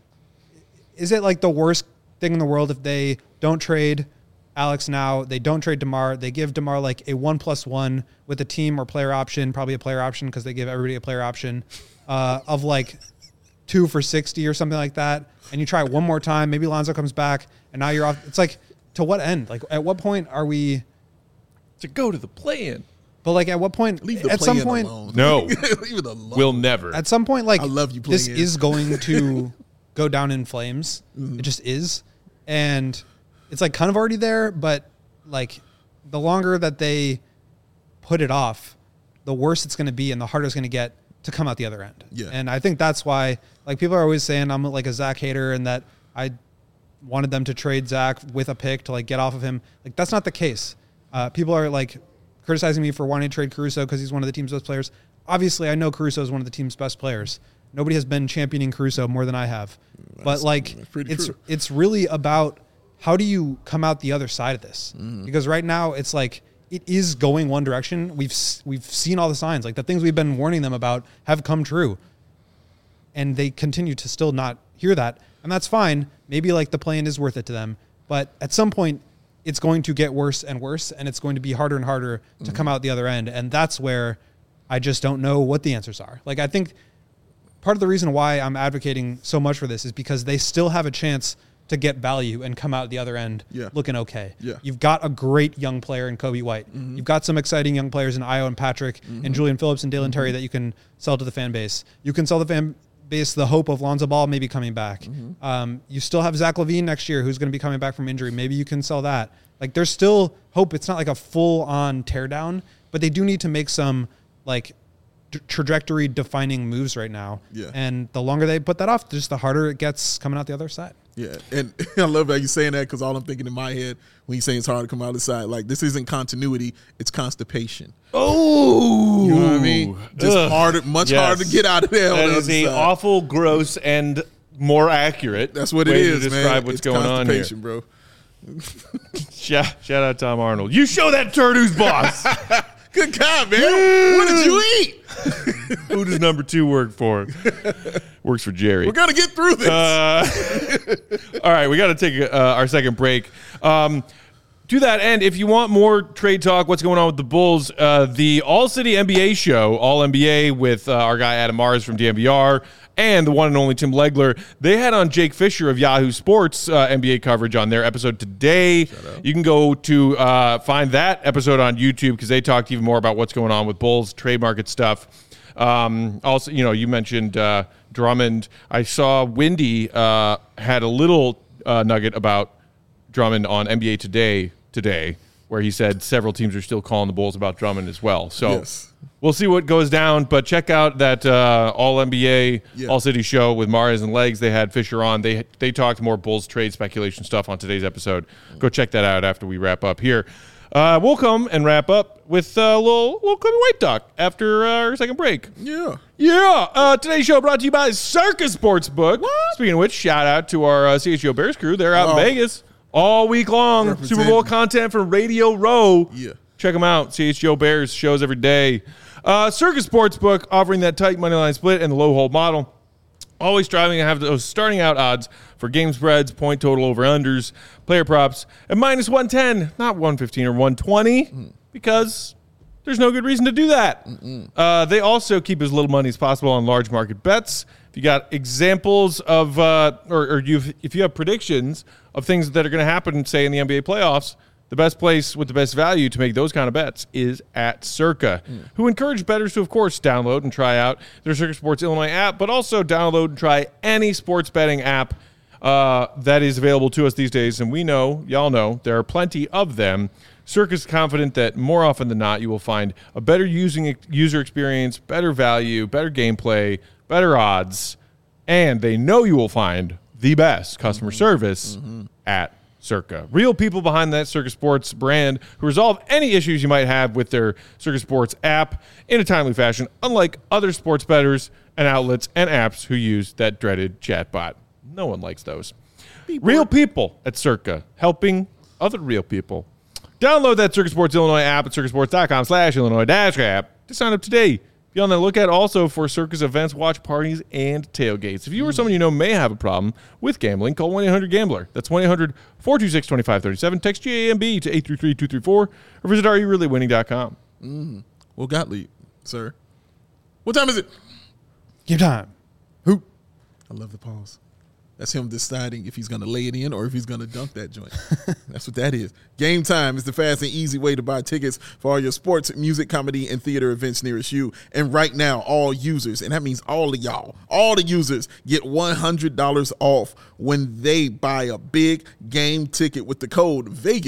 is it like the worst thing in the world if they don't trade Alex now, they don't trade DeMar, they give DeMar like a 1+1 with a team or player option, probably a player option because they give everybody a player option of like 2 for $60 or something like that. And you try it one more time, maybe Lonzo comes back and now you're off. It's like, to what end? Like at what point are we to go to the play-in? But like at what point? Leave the at some play-in point, alone. No, leave it alone. We'll never. At some point, like I love you this play-in. is going to go down in flames. It just is, and it's like kind of already there. But like the longer that they put it off, the worse it's going to be, and the harder it's going to get to come out the other end. Yeah. And I think that's why like people are always saying I'm like a Zach hater and that I wanted them to trade Zach with a pick to like get off of him. Like that's not the case. People are like criticizing me for wanting to trade Caruso because he's one of the team's best players. Obviously, I know Caruso is one of the team's best players. Nobody has been championing Caruso more than I have. But like, it's really about how do you come out the other side of this? Because right now it's like it is going one direction. We've seen all the signs. Like the things we've been warning them about have come true, and they continue to still not hear that, and that's fine. Maybe like the play-in is worth it to them, but at some point, it's going to get worse and worse, and it's going to be harder and harder to come out the other end. And that's where I just don't know what the answers are. Like, I think part of the reason why I'm advocating so much for this is because they still have a chance to get value and come out the other end looking okay. Yeah. You've got a great young player in Kobe White. You've got some exciting young players in Io and Patrick and Julian Phillips and Dalen Terry that you can sell to the fan base. You can sell the fan base the hope of Lonzo Ball maybe coming back. You still have Zach LaVine next year who's going to be coming back from injury. Maybe you can sell that. Like there's still hope. It's not like a full-on teardown, but they do need to make some like trajectory defining moves right now. Yeah. And the longer they put that off, just the harder it gets coming out the other side. Yeah. And I love how you're saying that because all I'm thinking in my head when you say it's hard to come out the side, like this isn't continuity, it's constipation. Oh, you know what I mean? Just harder, much harder to get out of there. That is a awful, gross, and more accurate. That's what it is, to describe man. What's it's going on here, bro. Shout out Tom Arnold. You show that turd who's boss. Good God, man. What did you eat? Who does number 2 work for? Works for Jerry. We're going to get through this. All right, we got to take our second break. To that end, if you want more trade talk, what's going on with the Bulls, the All-City NBA show, All-NBA with our guy Adam Mars from DNVR and the one and only Tim Legler, they had on Jake Fisher of Yahoo Sports NBA coverage on their episode today. You can go to find that episode on YouTube because they talked even more about what's going on with Bulls, trade market stuff. Also, you mentioned Drummond. I saw Wendy had a little nugget about Drummond on NBA today, where he said several teams are still calling the Bulls about Drummond as well. So we'll see what goes down. But check out that All NBA, All City show with Mares and Legs. They had Fisher on. They talked more Bulls trade speculation stuff on today's episode. Go check that out after we wrap up here. We'll come and wrap up with a little Kobe White talk after our second break. Yeah. Today's show brought to you by Circus Sportsbook. Speaking of which, shout out to our CHGO Bears crew. They're out in Vegas all week long. Super Bowl content from Radio Row. Yeah. Check them out. CHGO Bears shows every day. Circus Sportsbook offering that tight money line split and the low hold model. Always striving to have those starting out odds for game spreads, point total over-unders, player props, and minus 110, not 115 or 120, because there's no good reason to do that. They also keep as little money as possible on large market bets. If you got examples of, if you have predictions of things that are going to happen, say, in the NBA playoffs, the best place with the best value to make those kind of bets is at Circa, who encourage bettors to, of course, download and try out their Circa Sports Illinois app, but also download and try any sports betting app that is available to us these days. And we know, y'all know, there are plenty of them. Circa is confident that more often than not, you will find a better user experience, better value, better gameplay, better odds, and they know you will find the best customer service at Circa. Real people behind that Circa Sports brand who resolve any issues you might have with their Circa Sports app in a timely fashion, unlike other sports bettors and outlets and apps who use that dreaded chatbot. No one likes those. Real people at Circa, helping other real people. Download that Circa Sports Illinois app at circasports.com/Illinois-app to sign up today. Be on the lookout also for Circus events, watch parties, and tailgates. If you or someone you know may have a problem with gambling, call 1-800-GAMBLER. That's 1-800-426-2537. Text GAMB to 833-234 or visit areyoureallywinning.com. Well, Gottlieb, sir. What time is it? Give time. Who? I love the pause. That's him deciding if he's going to lay it in or if he's going to dunk that joint. That's what that is. Game Time is the fast and easy way to buy tickets for all your sports, music, comedy, and theater events nearest you. And right now, all users, and that means all of y'all, all the users get $100 off when they buy a big game ticket with the code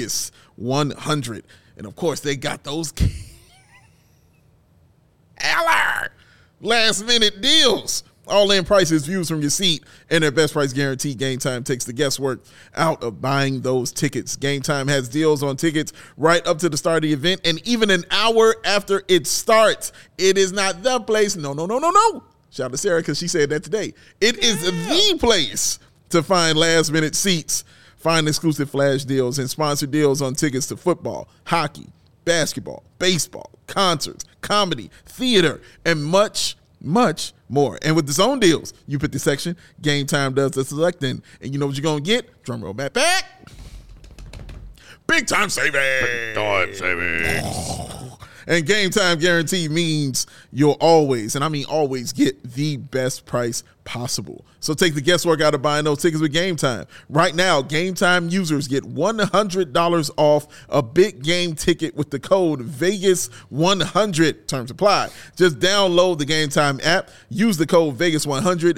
Vegas100. And, of course, they got those last-minute deals. All-in prices, views from your seat, and their best price guarantee. Game Time takes the guesswork out of buying those tickets. Game Time has deals on tickets right up to the start of the event and even an hour after it starts. It is not the place. No. Shout out to Sarah because she said that today. It is the place to find last-minute seats, find exclusive flash deals, and sponsor deals on tickets to football, hockey, basketball, baseball, concerts, comedy, theater, and much more. And with the zone deals, you pick the section, Game Time does the selecting, and you know what you're going to get? Drum roll back. Big time savings. And Game Time guarantee means you'll always, and I mean always, get the best price possible. So take the guesswork out of buying those tickets with Game Time. Right now, Game Time users get $100 off a big game ticket with the code Vegas100. Terms apply. Just download the Game Time app. Use the code Vegas100,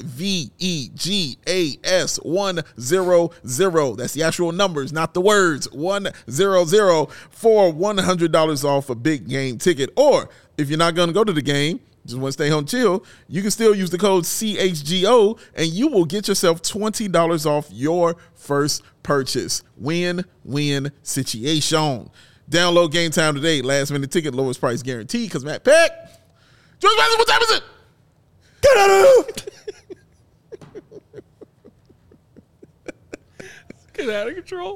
VEGAS100. That's the actual numbers, not the words. 100 for $100 off a big game ticket. Or if you're not going to go to the game, just want to stay home chill, you can still use the code CHGO and you will get yourself $20 off your first purchase. Win-win situation. Download Game Time today. Last minute ticket, lowest price guarantee. Because Matt Peck, George Mason, what time is it? Get out of Get out of control.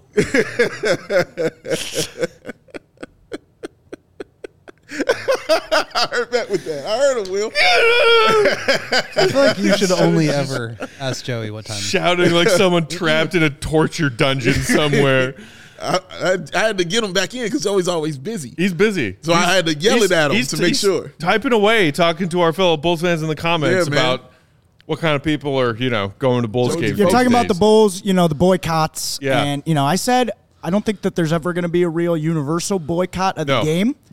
I heard that with that. I heard him, Will. I feel like you should only ever ask Joey what time. Shouting like someone trapped in a torture dungeon somewhere. I had to get him back in because Joey's always busy. He's busy. So I had to yell it at him to make sure. Typing away, talking to our fellow Bulls fans in the comments about what kind of people are, going to Bulls games. You're talking about the Bulls, the boycotts. Yeah. And, I said, I don't think that there's ever going to be a real universal boycott of the game.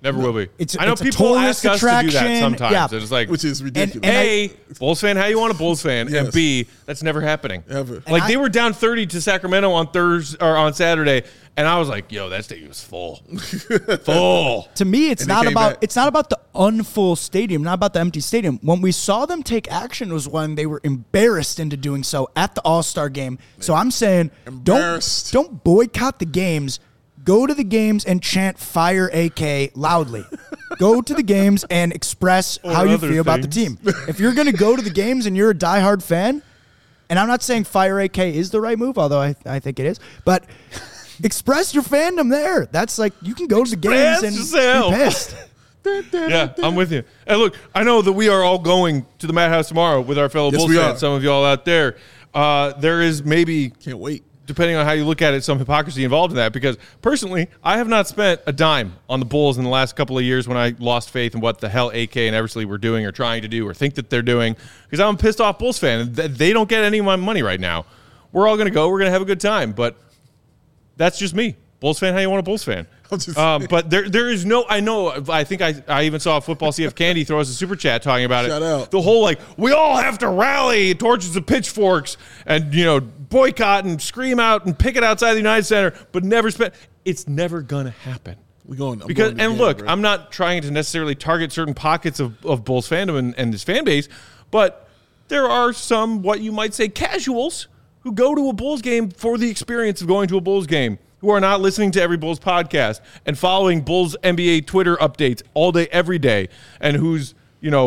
Never will be. I know it's a people ask tourist us to do that attraction. sometimes. Yeah. It's like, which is ridiculous. And A, Bulls fan, how you want a Bulls fan? Yes. And B, that's never happening. Ever. Like, And they were down 30 to Sacramento on Thursday or on Saturday, and I was like, yo, that stadium was full. Full. To me, it's And they not came about back. it's not about the unfull stadium, not about the empty stadium. When we saw them take action was when they were embarrassed into doing so at the All-Star game. So I'm saying Embarrassed. don't boycott the games. Go to the games and chant "Fire AK" loudly. Go to the games and express how you other feel about the things. team. If you're going to go to the games and you're a diehard fan, and I'm not saying "Fire AK" is the right move, although I think it is, but express your fandom there. That's like you can go to the games and yourself. be pissed. Yeah, I'm with you. And look, I know that we are all going to the Madhouse tomorrow with our fellow Yes, Bulls we fans. are. Some of y'all out there. There is maybe, Can't wait. depending on how you look at it, some hypocrisy involved in that. Because personally, I have not spent a dime on the Bulls in the last couple of years when I lost faith in what the hell AK and Eversley were doing or trying to do or think that they're doing. Because I'm a pissed off Bulls fan. And they don't get any of my money right now. We're all going to go. We're going to have a good time. But that's just me. Bulls fan, how you want a Bulls fan? I'm just But there is no, I think I even saw Football CF Candy throw us a super chat talking about Shout it. out. The whole like, we all have to rally, torches and pitchforks, and boycott and scream out and picket outside the United Center, but never spend. It's never gonna happen. I'm going to And the game, look, bro. I'm not trying to necessarily target certain pockets of Bulls fandom and this fan base, but there are some, what you might say, casuals who go to a Bulls game for the experience of going to a Bulls game, who are not listening to every Bulls podcast and following Bulls NBA Twitter updates all day, every day, and whose,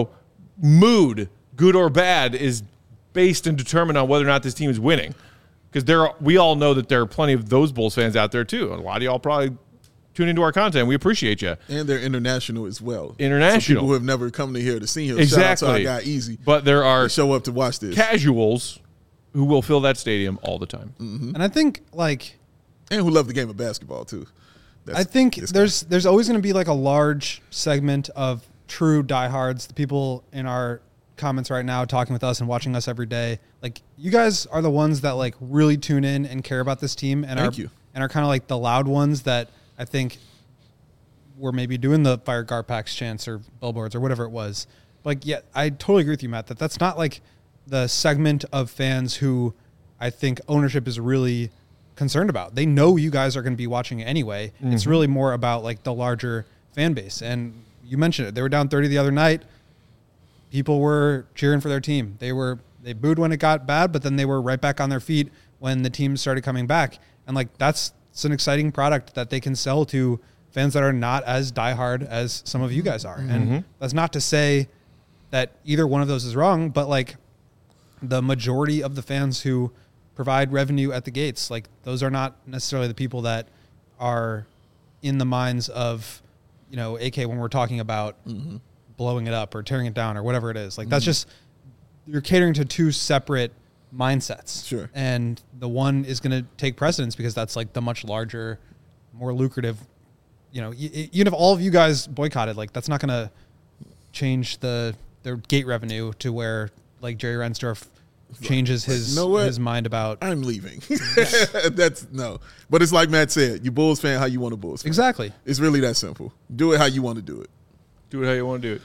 mood, good or bad, is based and determined on whether or not this team is winning. Because we all know that there are plenty of those Bulls fans out there too. A lot of y'all probably tune into our content. We appreciate you. And they're international as well. International. Some people who have never come to here to see him. Exactly. Shout out to our guy Easy. But there are They show up to watch this. casuals who will fill that stadium all the time. And I think And who love the game of basketball too. I think this guy. there's always going to be like a large segment of true diehards, the people in our comments right now talking with us and watching us every day. Like, you guys are the ones that like really tune in and care about this team and Thank you. and are kind of like the loud ones that I think were maybe doing the Fire Garpax chants or billboards or whatever it was. Like, yeah, I totally agree with you, Matt, that's not like the segment of fans who I think ownership is really concerned about. They know you guys are going to be watching it anyway. It's really more about like the larger fan base. And you mentioned it. They were down 30 the other night. People were cheering for their team. They booed when it got bad, but then they were right back on their feet when the team started coming back. And like it's an exciting product that they can sell to fans that are not as diehard as some of you guys are. And that's not to say that either one of those is wrong, but like the majority of the fans who provide revenue at the gates, like those are not necessarily the people that are in the minds of, AK when we're talking about blowing it up or tearing it down or whatever it is. Like that's just, you're catering to two separate mindsets. Sure. And the one is going to take precedence because that's like the much larger, more lucrative, even if all of you guys boycotted, like that's not going to change their gate revenue to where like Jerry Reinsdorf changes his You know what? his mind about I'm leaving. That's no. But it's like Matt said, you Bulls fan how you want a Bulls fan. exactly. It's really that simple. Do it how you want to do it. Do it how you want to do it.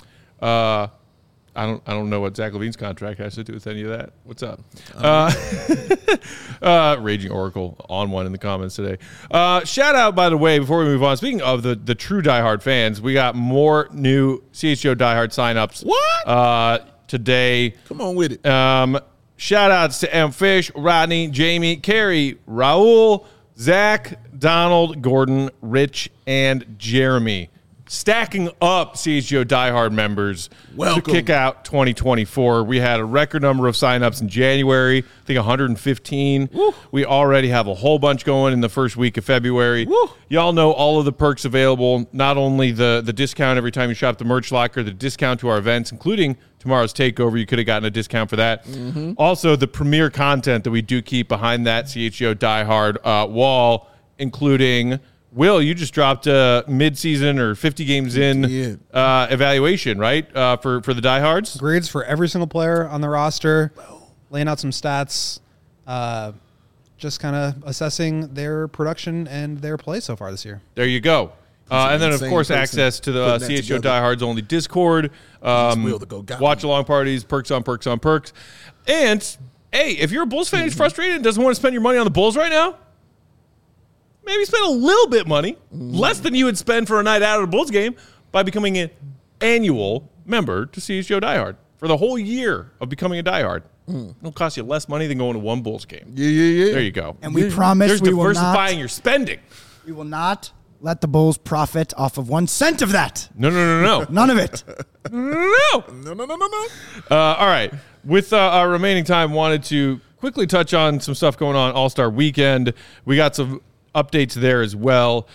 I don't know what Zach LaVine's contract has to do with any of that. What's up? Raging Oracle on one in the comments today. Shout out, by the way, before we move on, speaking of the true diehard fans, we got more new CHGO diehard signups. What? Today. Come on with it. Shout outs to M. Fish, Rodney, Jamie, Carrie, Raul, Zach, Donald, Gordon, Rich, and Jeremy. Stacking up CHGO diehard members Welcome. to kick out 2024. We had a record number of signups in January, I think 115. Woo. We already have a whole bunch going in the first week of February. Woo. Y'all know all of the perks available, not only the discount every time you shop the merch locker, the discount to our events, including tomorrow's takeover. You could have gotten a discount for that. Also, the premier content that we do keep behind that CHGO diehard wall, including... Will, you just dropped a mid-season or 50 games in evaluation, right, for the diehards? Grades for every single player on the roster, laying out some stats, just kind of assessing their production and their play so far this year. There you go. And then, of insane course, person access to the putting that CHO together. Diehards only Discord, Will to go got watch me. along parties, perks on perks on perks. And, hey, if you're a Bulls fan who's frustrated and doesn't want to spend your money on the Bulls right now, maybe spend a little bit money, less than you would spend for a night out at a Bulls game, by becoming an annual member to CHO Diehard for the whole year of becoming a diehard. It'll cost you less money than going to one Bulls game. Yeah. There you go. And we promise There's we will diversifying not. your spending. We will not let the Bulls profit off of 1 cent of that. No. None of it. No. No. All right. With our remaining time, wanted to quickly touch on some stuff going on All-Star Weekend. We got some updates there as well.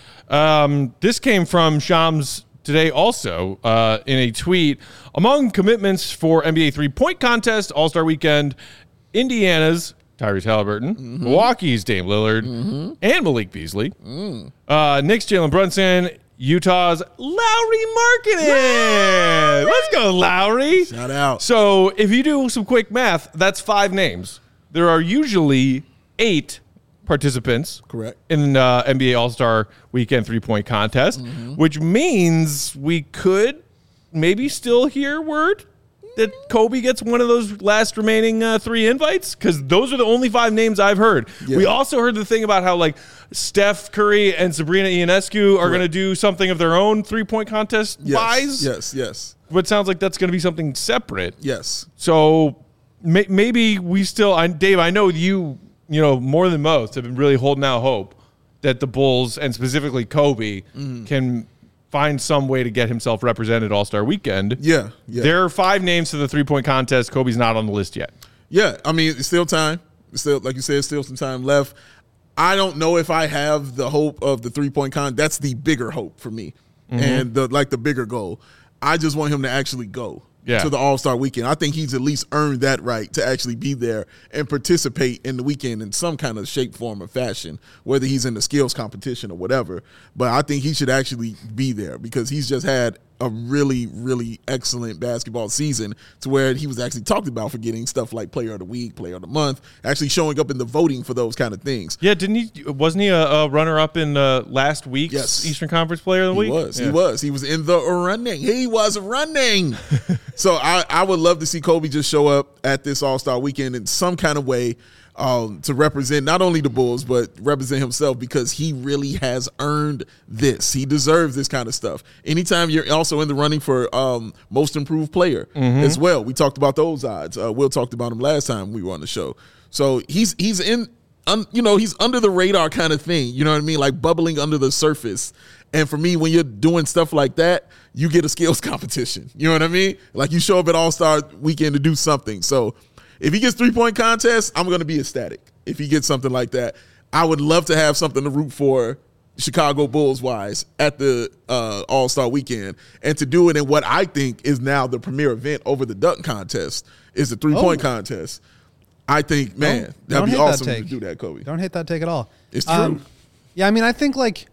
This came from Shams today also in a tweet. Among commitments for NBA three-point contest All-Star Weekend, Indiana's Tyrese Halliburton, Milwaukee's Dame Lillard, and Malik Beasley, Knicks' Jalen Brunson, Utah's Lowry Markkanen. Let's go, Lowry. Shout out. So if you do some quick math, that's 5 names. There are usually 8 participants Correct. in NBA All-Star Weekend three-point contest, which means we could maybe still hear word that Kobe gets one of those last remaining 3 invites, because those are the only 5 names I've heard. Yeah. We also heard the thing about how like Steph Curry and Sabrina Ionescu are going to do something of their own three-point contest wise. Yes. But it sounds like that's going to be something separate. Yes. So maybe we still, Dave, I know you more than most have been really holding out hope that the Bulls and specifically Kobe can find some way to get himself represented All-Star Weekend. Yeah. There are 5 names to the three-point contest. Kobe's not on the list yet. Yeah, I mean, it's still time. It's still, like you said, still some time left. I don't know if I have the hope of the three-point contest. That's the bigger hope for me, and the bigger goal. I just want him to actually go to the All-Star Weekend. I think he's at least earned that right to actually be there and participate in the weekend in some kind of shape, form, or fashion, whether he's in the skills competition or whatever. But I think he should actually be there because he's just had a really, really excellent basketball season to where he was actually talked about for getting stuff like Player of the Week, Player of the Month, actually showing up in the voting for those kind of things. Yeah, wasn't he a runner-up in last week's Yes. Eastern Conference Player of the Week? He was. He was in the running. He was running. So I would love to see Kobe just show up at this All-Star Weekend in some kind of way to represent not only the Bulls, but represent himself, because he really has earned this. He deserves this kind of stuff. Anytime you're also in the running for most improved player as well. We talked about those odds. Will talked about him last time we were on the show. So he's in, he's under the radar kind of thing. You know what I mean? Like bubbling under the surface. And for me, when you're doing stuff like that, you get a skills competition. You know what I mean? Like you show up at All-Star Weekend to do something. So if he gets three-point contest, I'm going to be ecstatic. If he gets something like that, I would love to have something to root for Chicago Bulls-wise at the All-Star Weekend. And to do it in what I think is now the premier event over the dunk contest is the three-point contest. I think, man, that'd be awesome to do that, Kobe. Don't hate that take at all. It's true. Yeah, I mean, I think like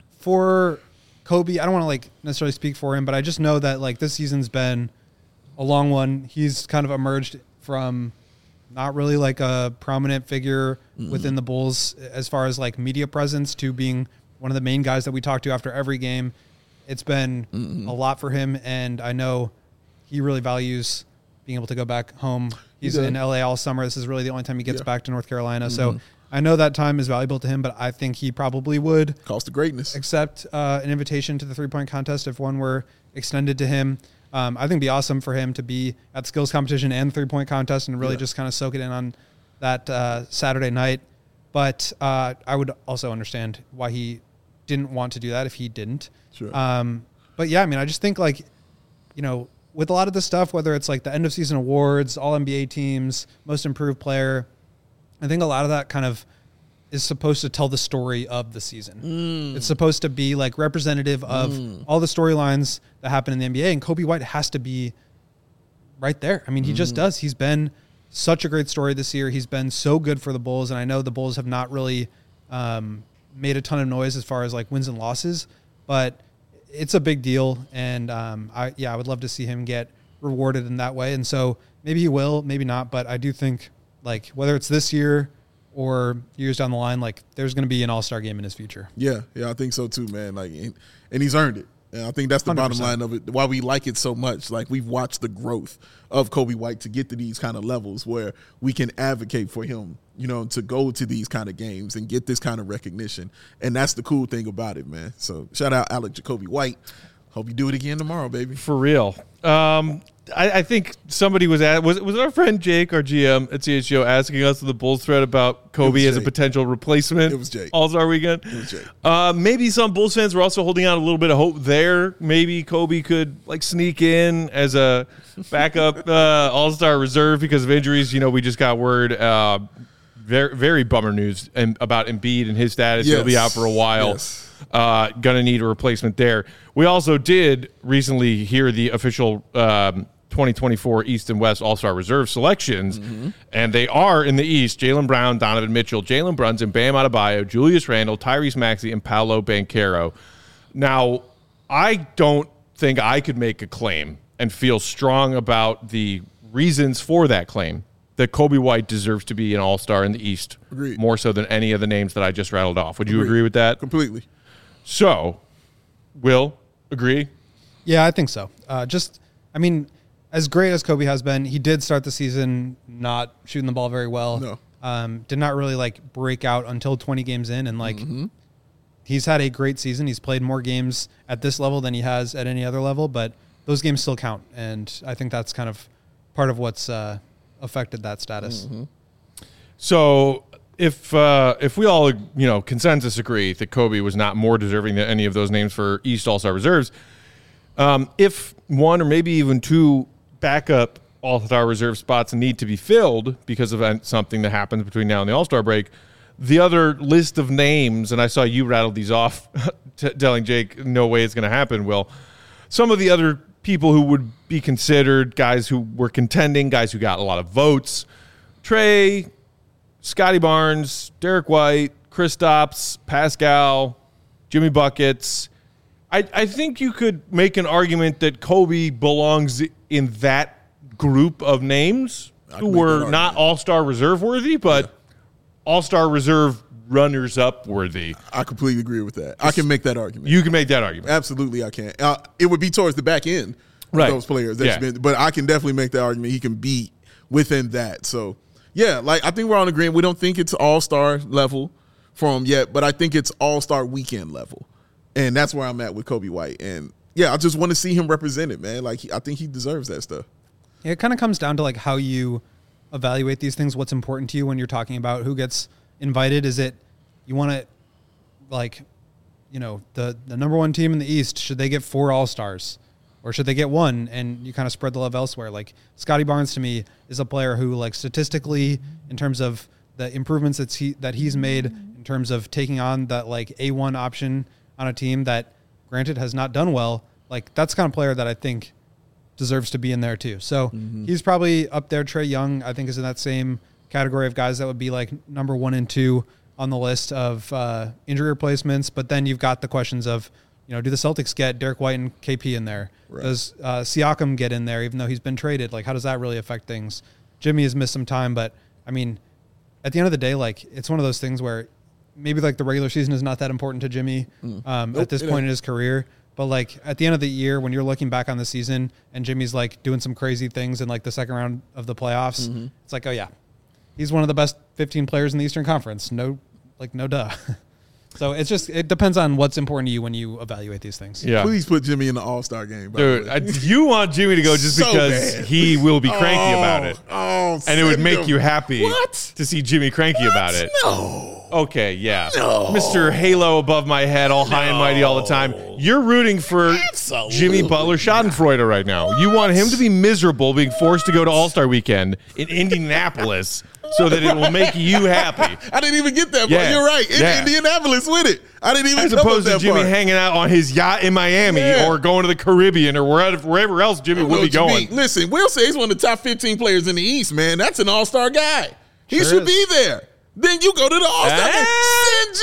for Kobe, I don't want to like necessarily speak for him, but I just know that like this season's been a long one. He's kind of emerged from not really like a prominent figure within the Bulls as far as like media presence to being one of the main guys that we talk to after every game. It's been a lot for him, and I know he really values being able to go back home. He's in LA all summer. This is really the only time he gets back to North Carolina. So I know that time is valuable to him, but I think he probably would Cost of greatness. accept an invitation to the three-point contest if one were extended to him. I think it'd be awesome for him to be at the skills competition and three-point contest and really just kind of soak it in on that Saturday night. But I would also understand why he didn't want to do that if he didn't. Sure. But yeah, I mean, I just think like, with a lot of this stuff, whether it's like the end of season awards, all NBA teams, most improved player, I think a lot of that kind of is supposed to tell the story of the season. It's supposed to be like representative of all the storylines that happen in the NBA, and Kobe White has to be right there. I mean, he just does. He's been such a great story this year. He's been so good for the Bulls, and I know the Bulls have not really made a ton of noise as far as like wins and losses, but it's a big deal, and I would love to see him get rewarded in that way. And so maybe he will, maybe not, but I do think like whether it's this year or years down the line, like there's going to be an all-star game in his future. Yeah, I think so too, man. Like, and he's earned it. And I think that's the 100%. bottom line of it. Why we like it so much. Like, we've watched the growth of Coby White to get to these kind of levels where we can advocate for him, to go to these kind of games and get this kind of recognition. And that's the cool thing about it, man. So shout out Alec Jacoby White. Hope you do it again tomorrow, baby. For real. I think somebody was our friend Jake, our GM at CHGO, asking us in the Bulls thread about Coby as a Jake. potential replacement. It was Jake. All-Star weekend. It was Jake. Maybe some Bulls fans were also holding out a little bit of hope there. Maybe Coby could sneak in as a backup All-Star reserve because of injuries. We just got word, very, very bummer news about Embiid and his status. Yes. He'll be out for a while. Yes. Gonna need a replacement there. We also did recently hear the official 2024 East and West All-Star Reserve selections, and they are in the East: Jaylen Brown, Donovan Mitchell, Jalen Brunson, Bam Adebayo, Julius Randle, Tyrese Maxey, and Paolo Banchero. Now, I don't think I could make a claim and feel strong about the reasons for that claim that Coby White deserves to be an All-Star in the East, Agreed. more so than any of the names that I just rattled off. Would you agree with that? Completely. So, Will, agree? Yeah, I think so. As great as Coby has been, he did start the season not shooting the ball very well. No. Did not really break out until 20 games in, and he's had a great season. He's played more games at this level than he has at any other level, but those games still count, and I think that's kind of part of what's affected that status. So, if we all consensus agree that Coby was not more deserving than any of those names for East All-Star reserves, if one or maybe even two backup All-Star reserve spots need to be filled because of something that happens between now and the All-Star break, the other list of names, and I saw you rattle these off, telling Jake, no way it's going to happen, Will. Some of the other people who would be considered guys who were contending, guys who got a lot of votes: Trey, Scotty Barnes, Derek White, Kristaps, Pascal, Jimmy Buckets. I think you could make an argument that Coby belongs in that group of names who were not All-Star reserve worthy, but All-Star reserve runners-up worthy. I completely agree with that. I can make that argument. You can make that argument. Absolutely, I can. It would be towards the back end of Right. those players. Yeah. But I can definitely make that argument. He can be within that. So, yeah, I think we're on agreement. We don't think it's All-Star level for him yet, but I think it's All-Star weekend level. And that's where I'm at with Coby White. And, yeah, I just want to see him represented, man. I think he deserves that stuff. Yeah, it kind of comes down to how you evaluate these things. What's important to you when you're talking about who gets invited? Is it you want to the number one team in the East, should they get 4 All-Stars or should they get 1? And you kind of spread the love elsewhere. Scotty Barnes to me is a player who statistically, in terms of the improvements that he's made in terms of taking on that A1 option on a team that granted has not done well, that's the kind of player that I think deserves to be in there too. So he's probably up there. Trey Young, I think, is in that same category of guys that would be number 1 and 2 on the list of injury replacements. But then you've got the questions of, do the Celtics get Derek White and KP in there? Right. Does Siakam get in there, even though he's been traded? How does that really affect things? Jimmy has missed some time, but at the end of the day, it's one of those things where maybe the regular season is not that important to Jimmy at this point in his career. But at the end of the year, when you're looking back on the season and Jimmy's doing some crazy things in the second round of the playoffs, it's oh yeah, he's one of the best 15 players in the Eastern Conference. No duh. So it depends on what's important to you when you evaluate these things. Yeah. Please put Jimmy in the All-Star game. Dude, you want Jimmy to go just So because bad. he will be cranky about it. And it would make you happy What? to see Jimmy cranky about it. No. Okay, yeah. No. Mr. Halo above my head, all high and mighty all the time. You're rooting for Jimmy Butler Schadenfreude right now. You want him to be miserable being forced to go to All-Star Weekend in Indianapolis so that it will make you happy. I didn't even get that part. Yeah. You're right. In Yeah. Indianapolis with it. I didn't even As come up opposed to that Jimmy part. hanging out on his yacht in Miami Yeah. or going to the Caribbean or wherever else Jimmy I know will be what you going. mean. Listen, Will say he's one of the top 15 players in the East, man. That's an all-star guy. He Sure should is. be there. Then you go to the all-star game. Send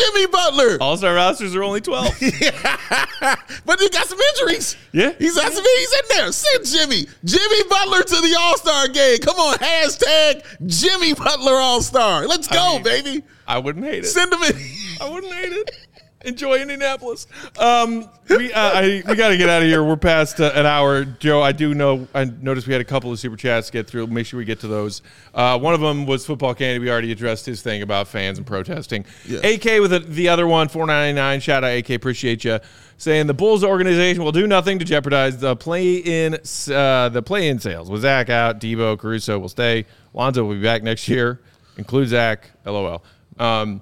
Jimmy Butler. All-star rosters are only 12. But he got some injuries. Yeah. He's in there. Send Jimmy Butler to the All-Star game. Come on, hashtag Jimmy Butler All-Star. Let's go, baby. I wouldn't hate it. Send him in. I wouldn't hate it. Enjoy Indianapolis. We got to get out of here. We're past an hour. Joe, I noticed we had a couple of super chats to get through. Make sure we get to those. One of them was Football Candy. We already addressed his thing about fans and protesting. Yeah. AK with the other one, $4.99. Shout out AK, appreciate you. Saying the Bulls organization will do nothing to jeopardize the play-in sales. With Zach out, Debo, Caruso will stay. Lonzo will be back next year. Include Zach. LOL. And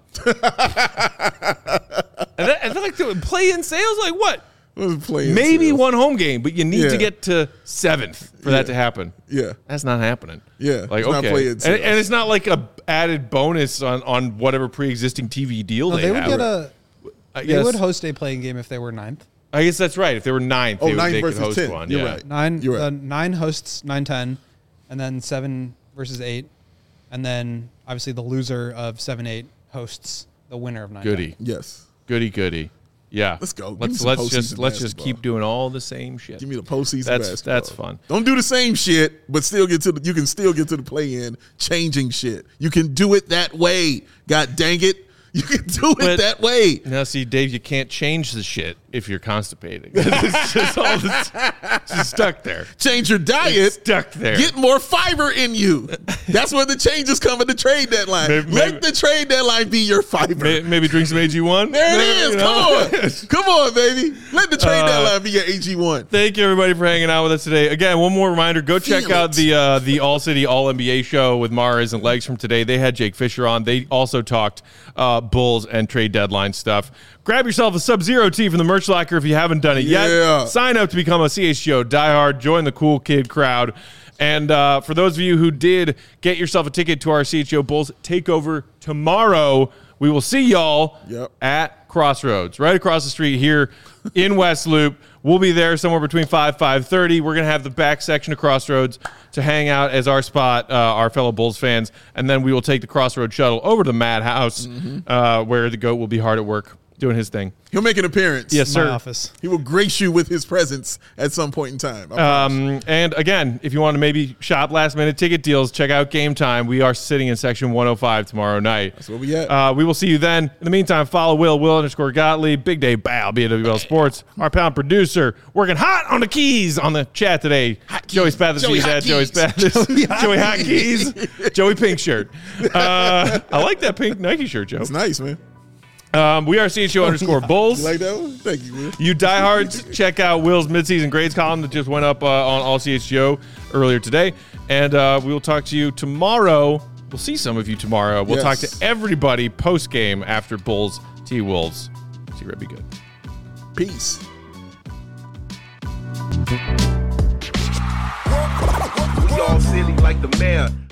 then like the play-in sales, like what? Maybe one home game, but you need to get to 7th for that to happen. Yeah, that's not happening. Yeah, like it's okay, and it's not like a added bonus on whatever pre-existing TV deal they would have. They would host a playing game if they were 9th. I guess that's right. If they were 9th, they could host 10. one. You're right. 9 hosts 9-10, and then 7 versus 8, and then obviously the loser of 7-8 hosts the winner of 9-10. Goody. Yes. Goody. Yeah. Let's go. Let's just keep doing all the same shit. Give me the postseason basketball. That's fun. Don't do the same shit, but you can still get to the play-in changing shit. You can do it that way. God dang it. You can do it that way. Now, see, Dave, you can't change the shit if you're constipated. It's just all just stuck there. Change your diet. It's stuck there. Get more fiber in you. That's where the changes come at the trade deadline. Let the trade deadline be your fiber. Maybe drink some AG1. There it is. Come on, baby. Let the trade deadline be your AG1. Thank you, everybody, for hanging out with us today. Again, one more reminder, go check out the All-City All-NBA show with Mars and Legs from today. They had Jake Fisher on. They also talked Bulls and trade deadline stuff. Grab yourself a Sub-Zero tee from the merch locker if you haven't done it yet. Sign up to become a CHGO diehard. Join the cool kid crowd. And for those of you who did get yourself a ticket to our CHGO Bulls takeover tomorrow, we will see y'all at Crossroads, right across the street here in West Loop. We'll be there somewhere between 5:30. We're going to have the back section of Crossroads to hang out as our spot, our fellow Bulls fans. And then we will take the Crossroads shuttle over to the Madhouse, where the GOAT will be hard at work doing his thing. He'll make an appearance. Yes, sir. My office. He will grace you with his presence at some point in time. And again, if you want to maybe shop last minute ticket deals, check out Game Time. We are sitting in section 105 tomorrow night. That's where we at. We will see you then. In the meantime, follow Will_Gottlieb, Big Day Bow, BWL Sports, our pound producer, working hot on the keys on the chat today. Joey Spathis, Joey Spathis, Joey Hot Keys, Joey Pink Shirt. I like that pink Nike shirt, Joe. It's nice, man. We are CHGO_Bulls. You like that one? Thank you, Will. You diehards, check out Will's midseason grades column that just went up on All CHGO earlier today. And we will talk to you tomorrow. We'll see some of you tomorrow. We'll talk to everybody post-game after Bulls T-Wolves. See you, be good. Peace. We all silly like the mayor.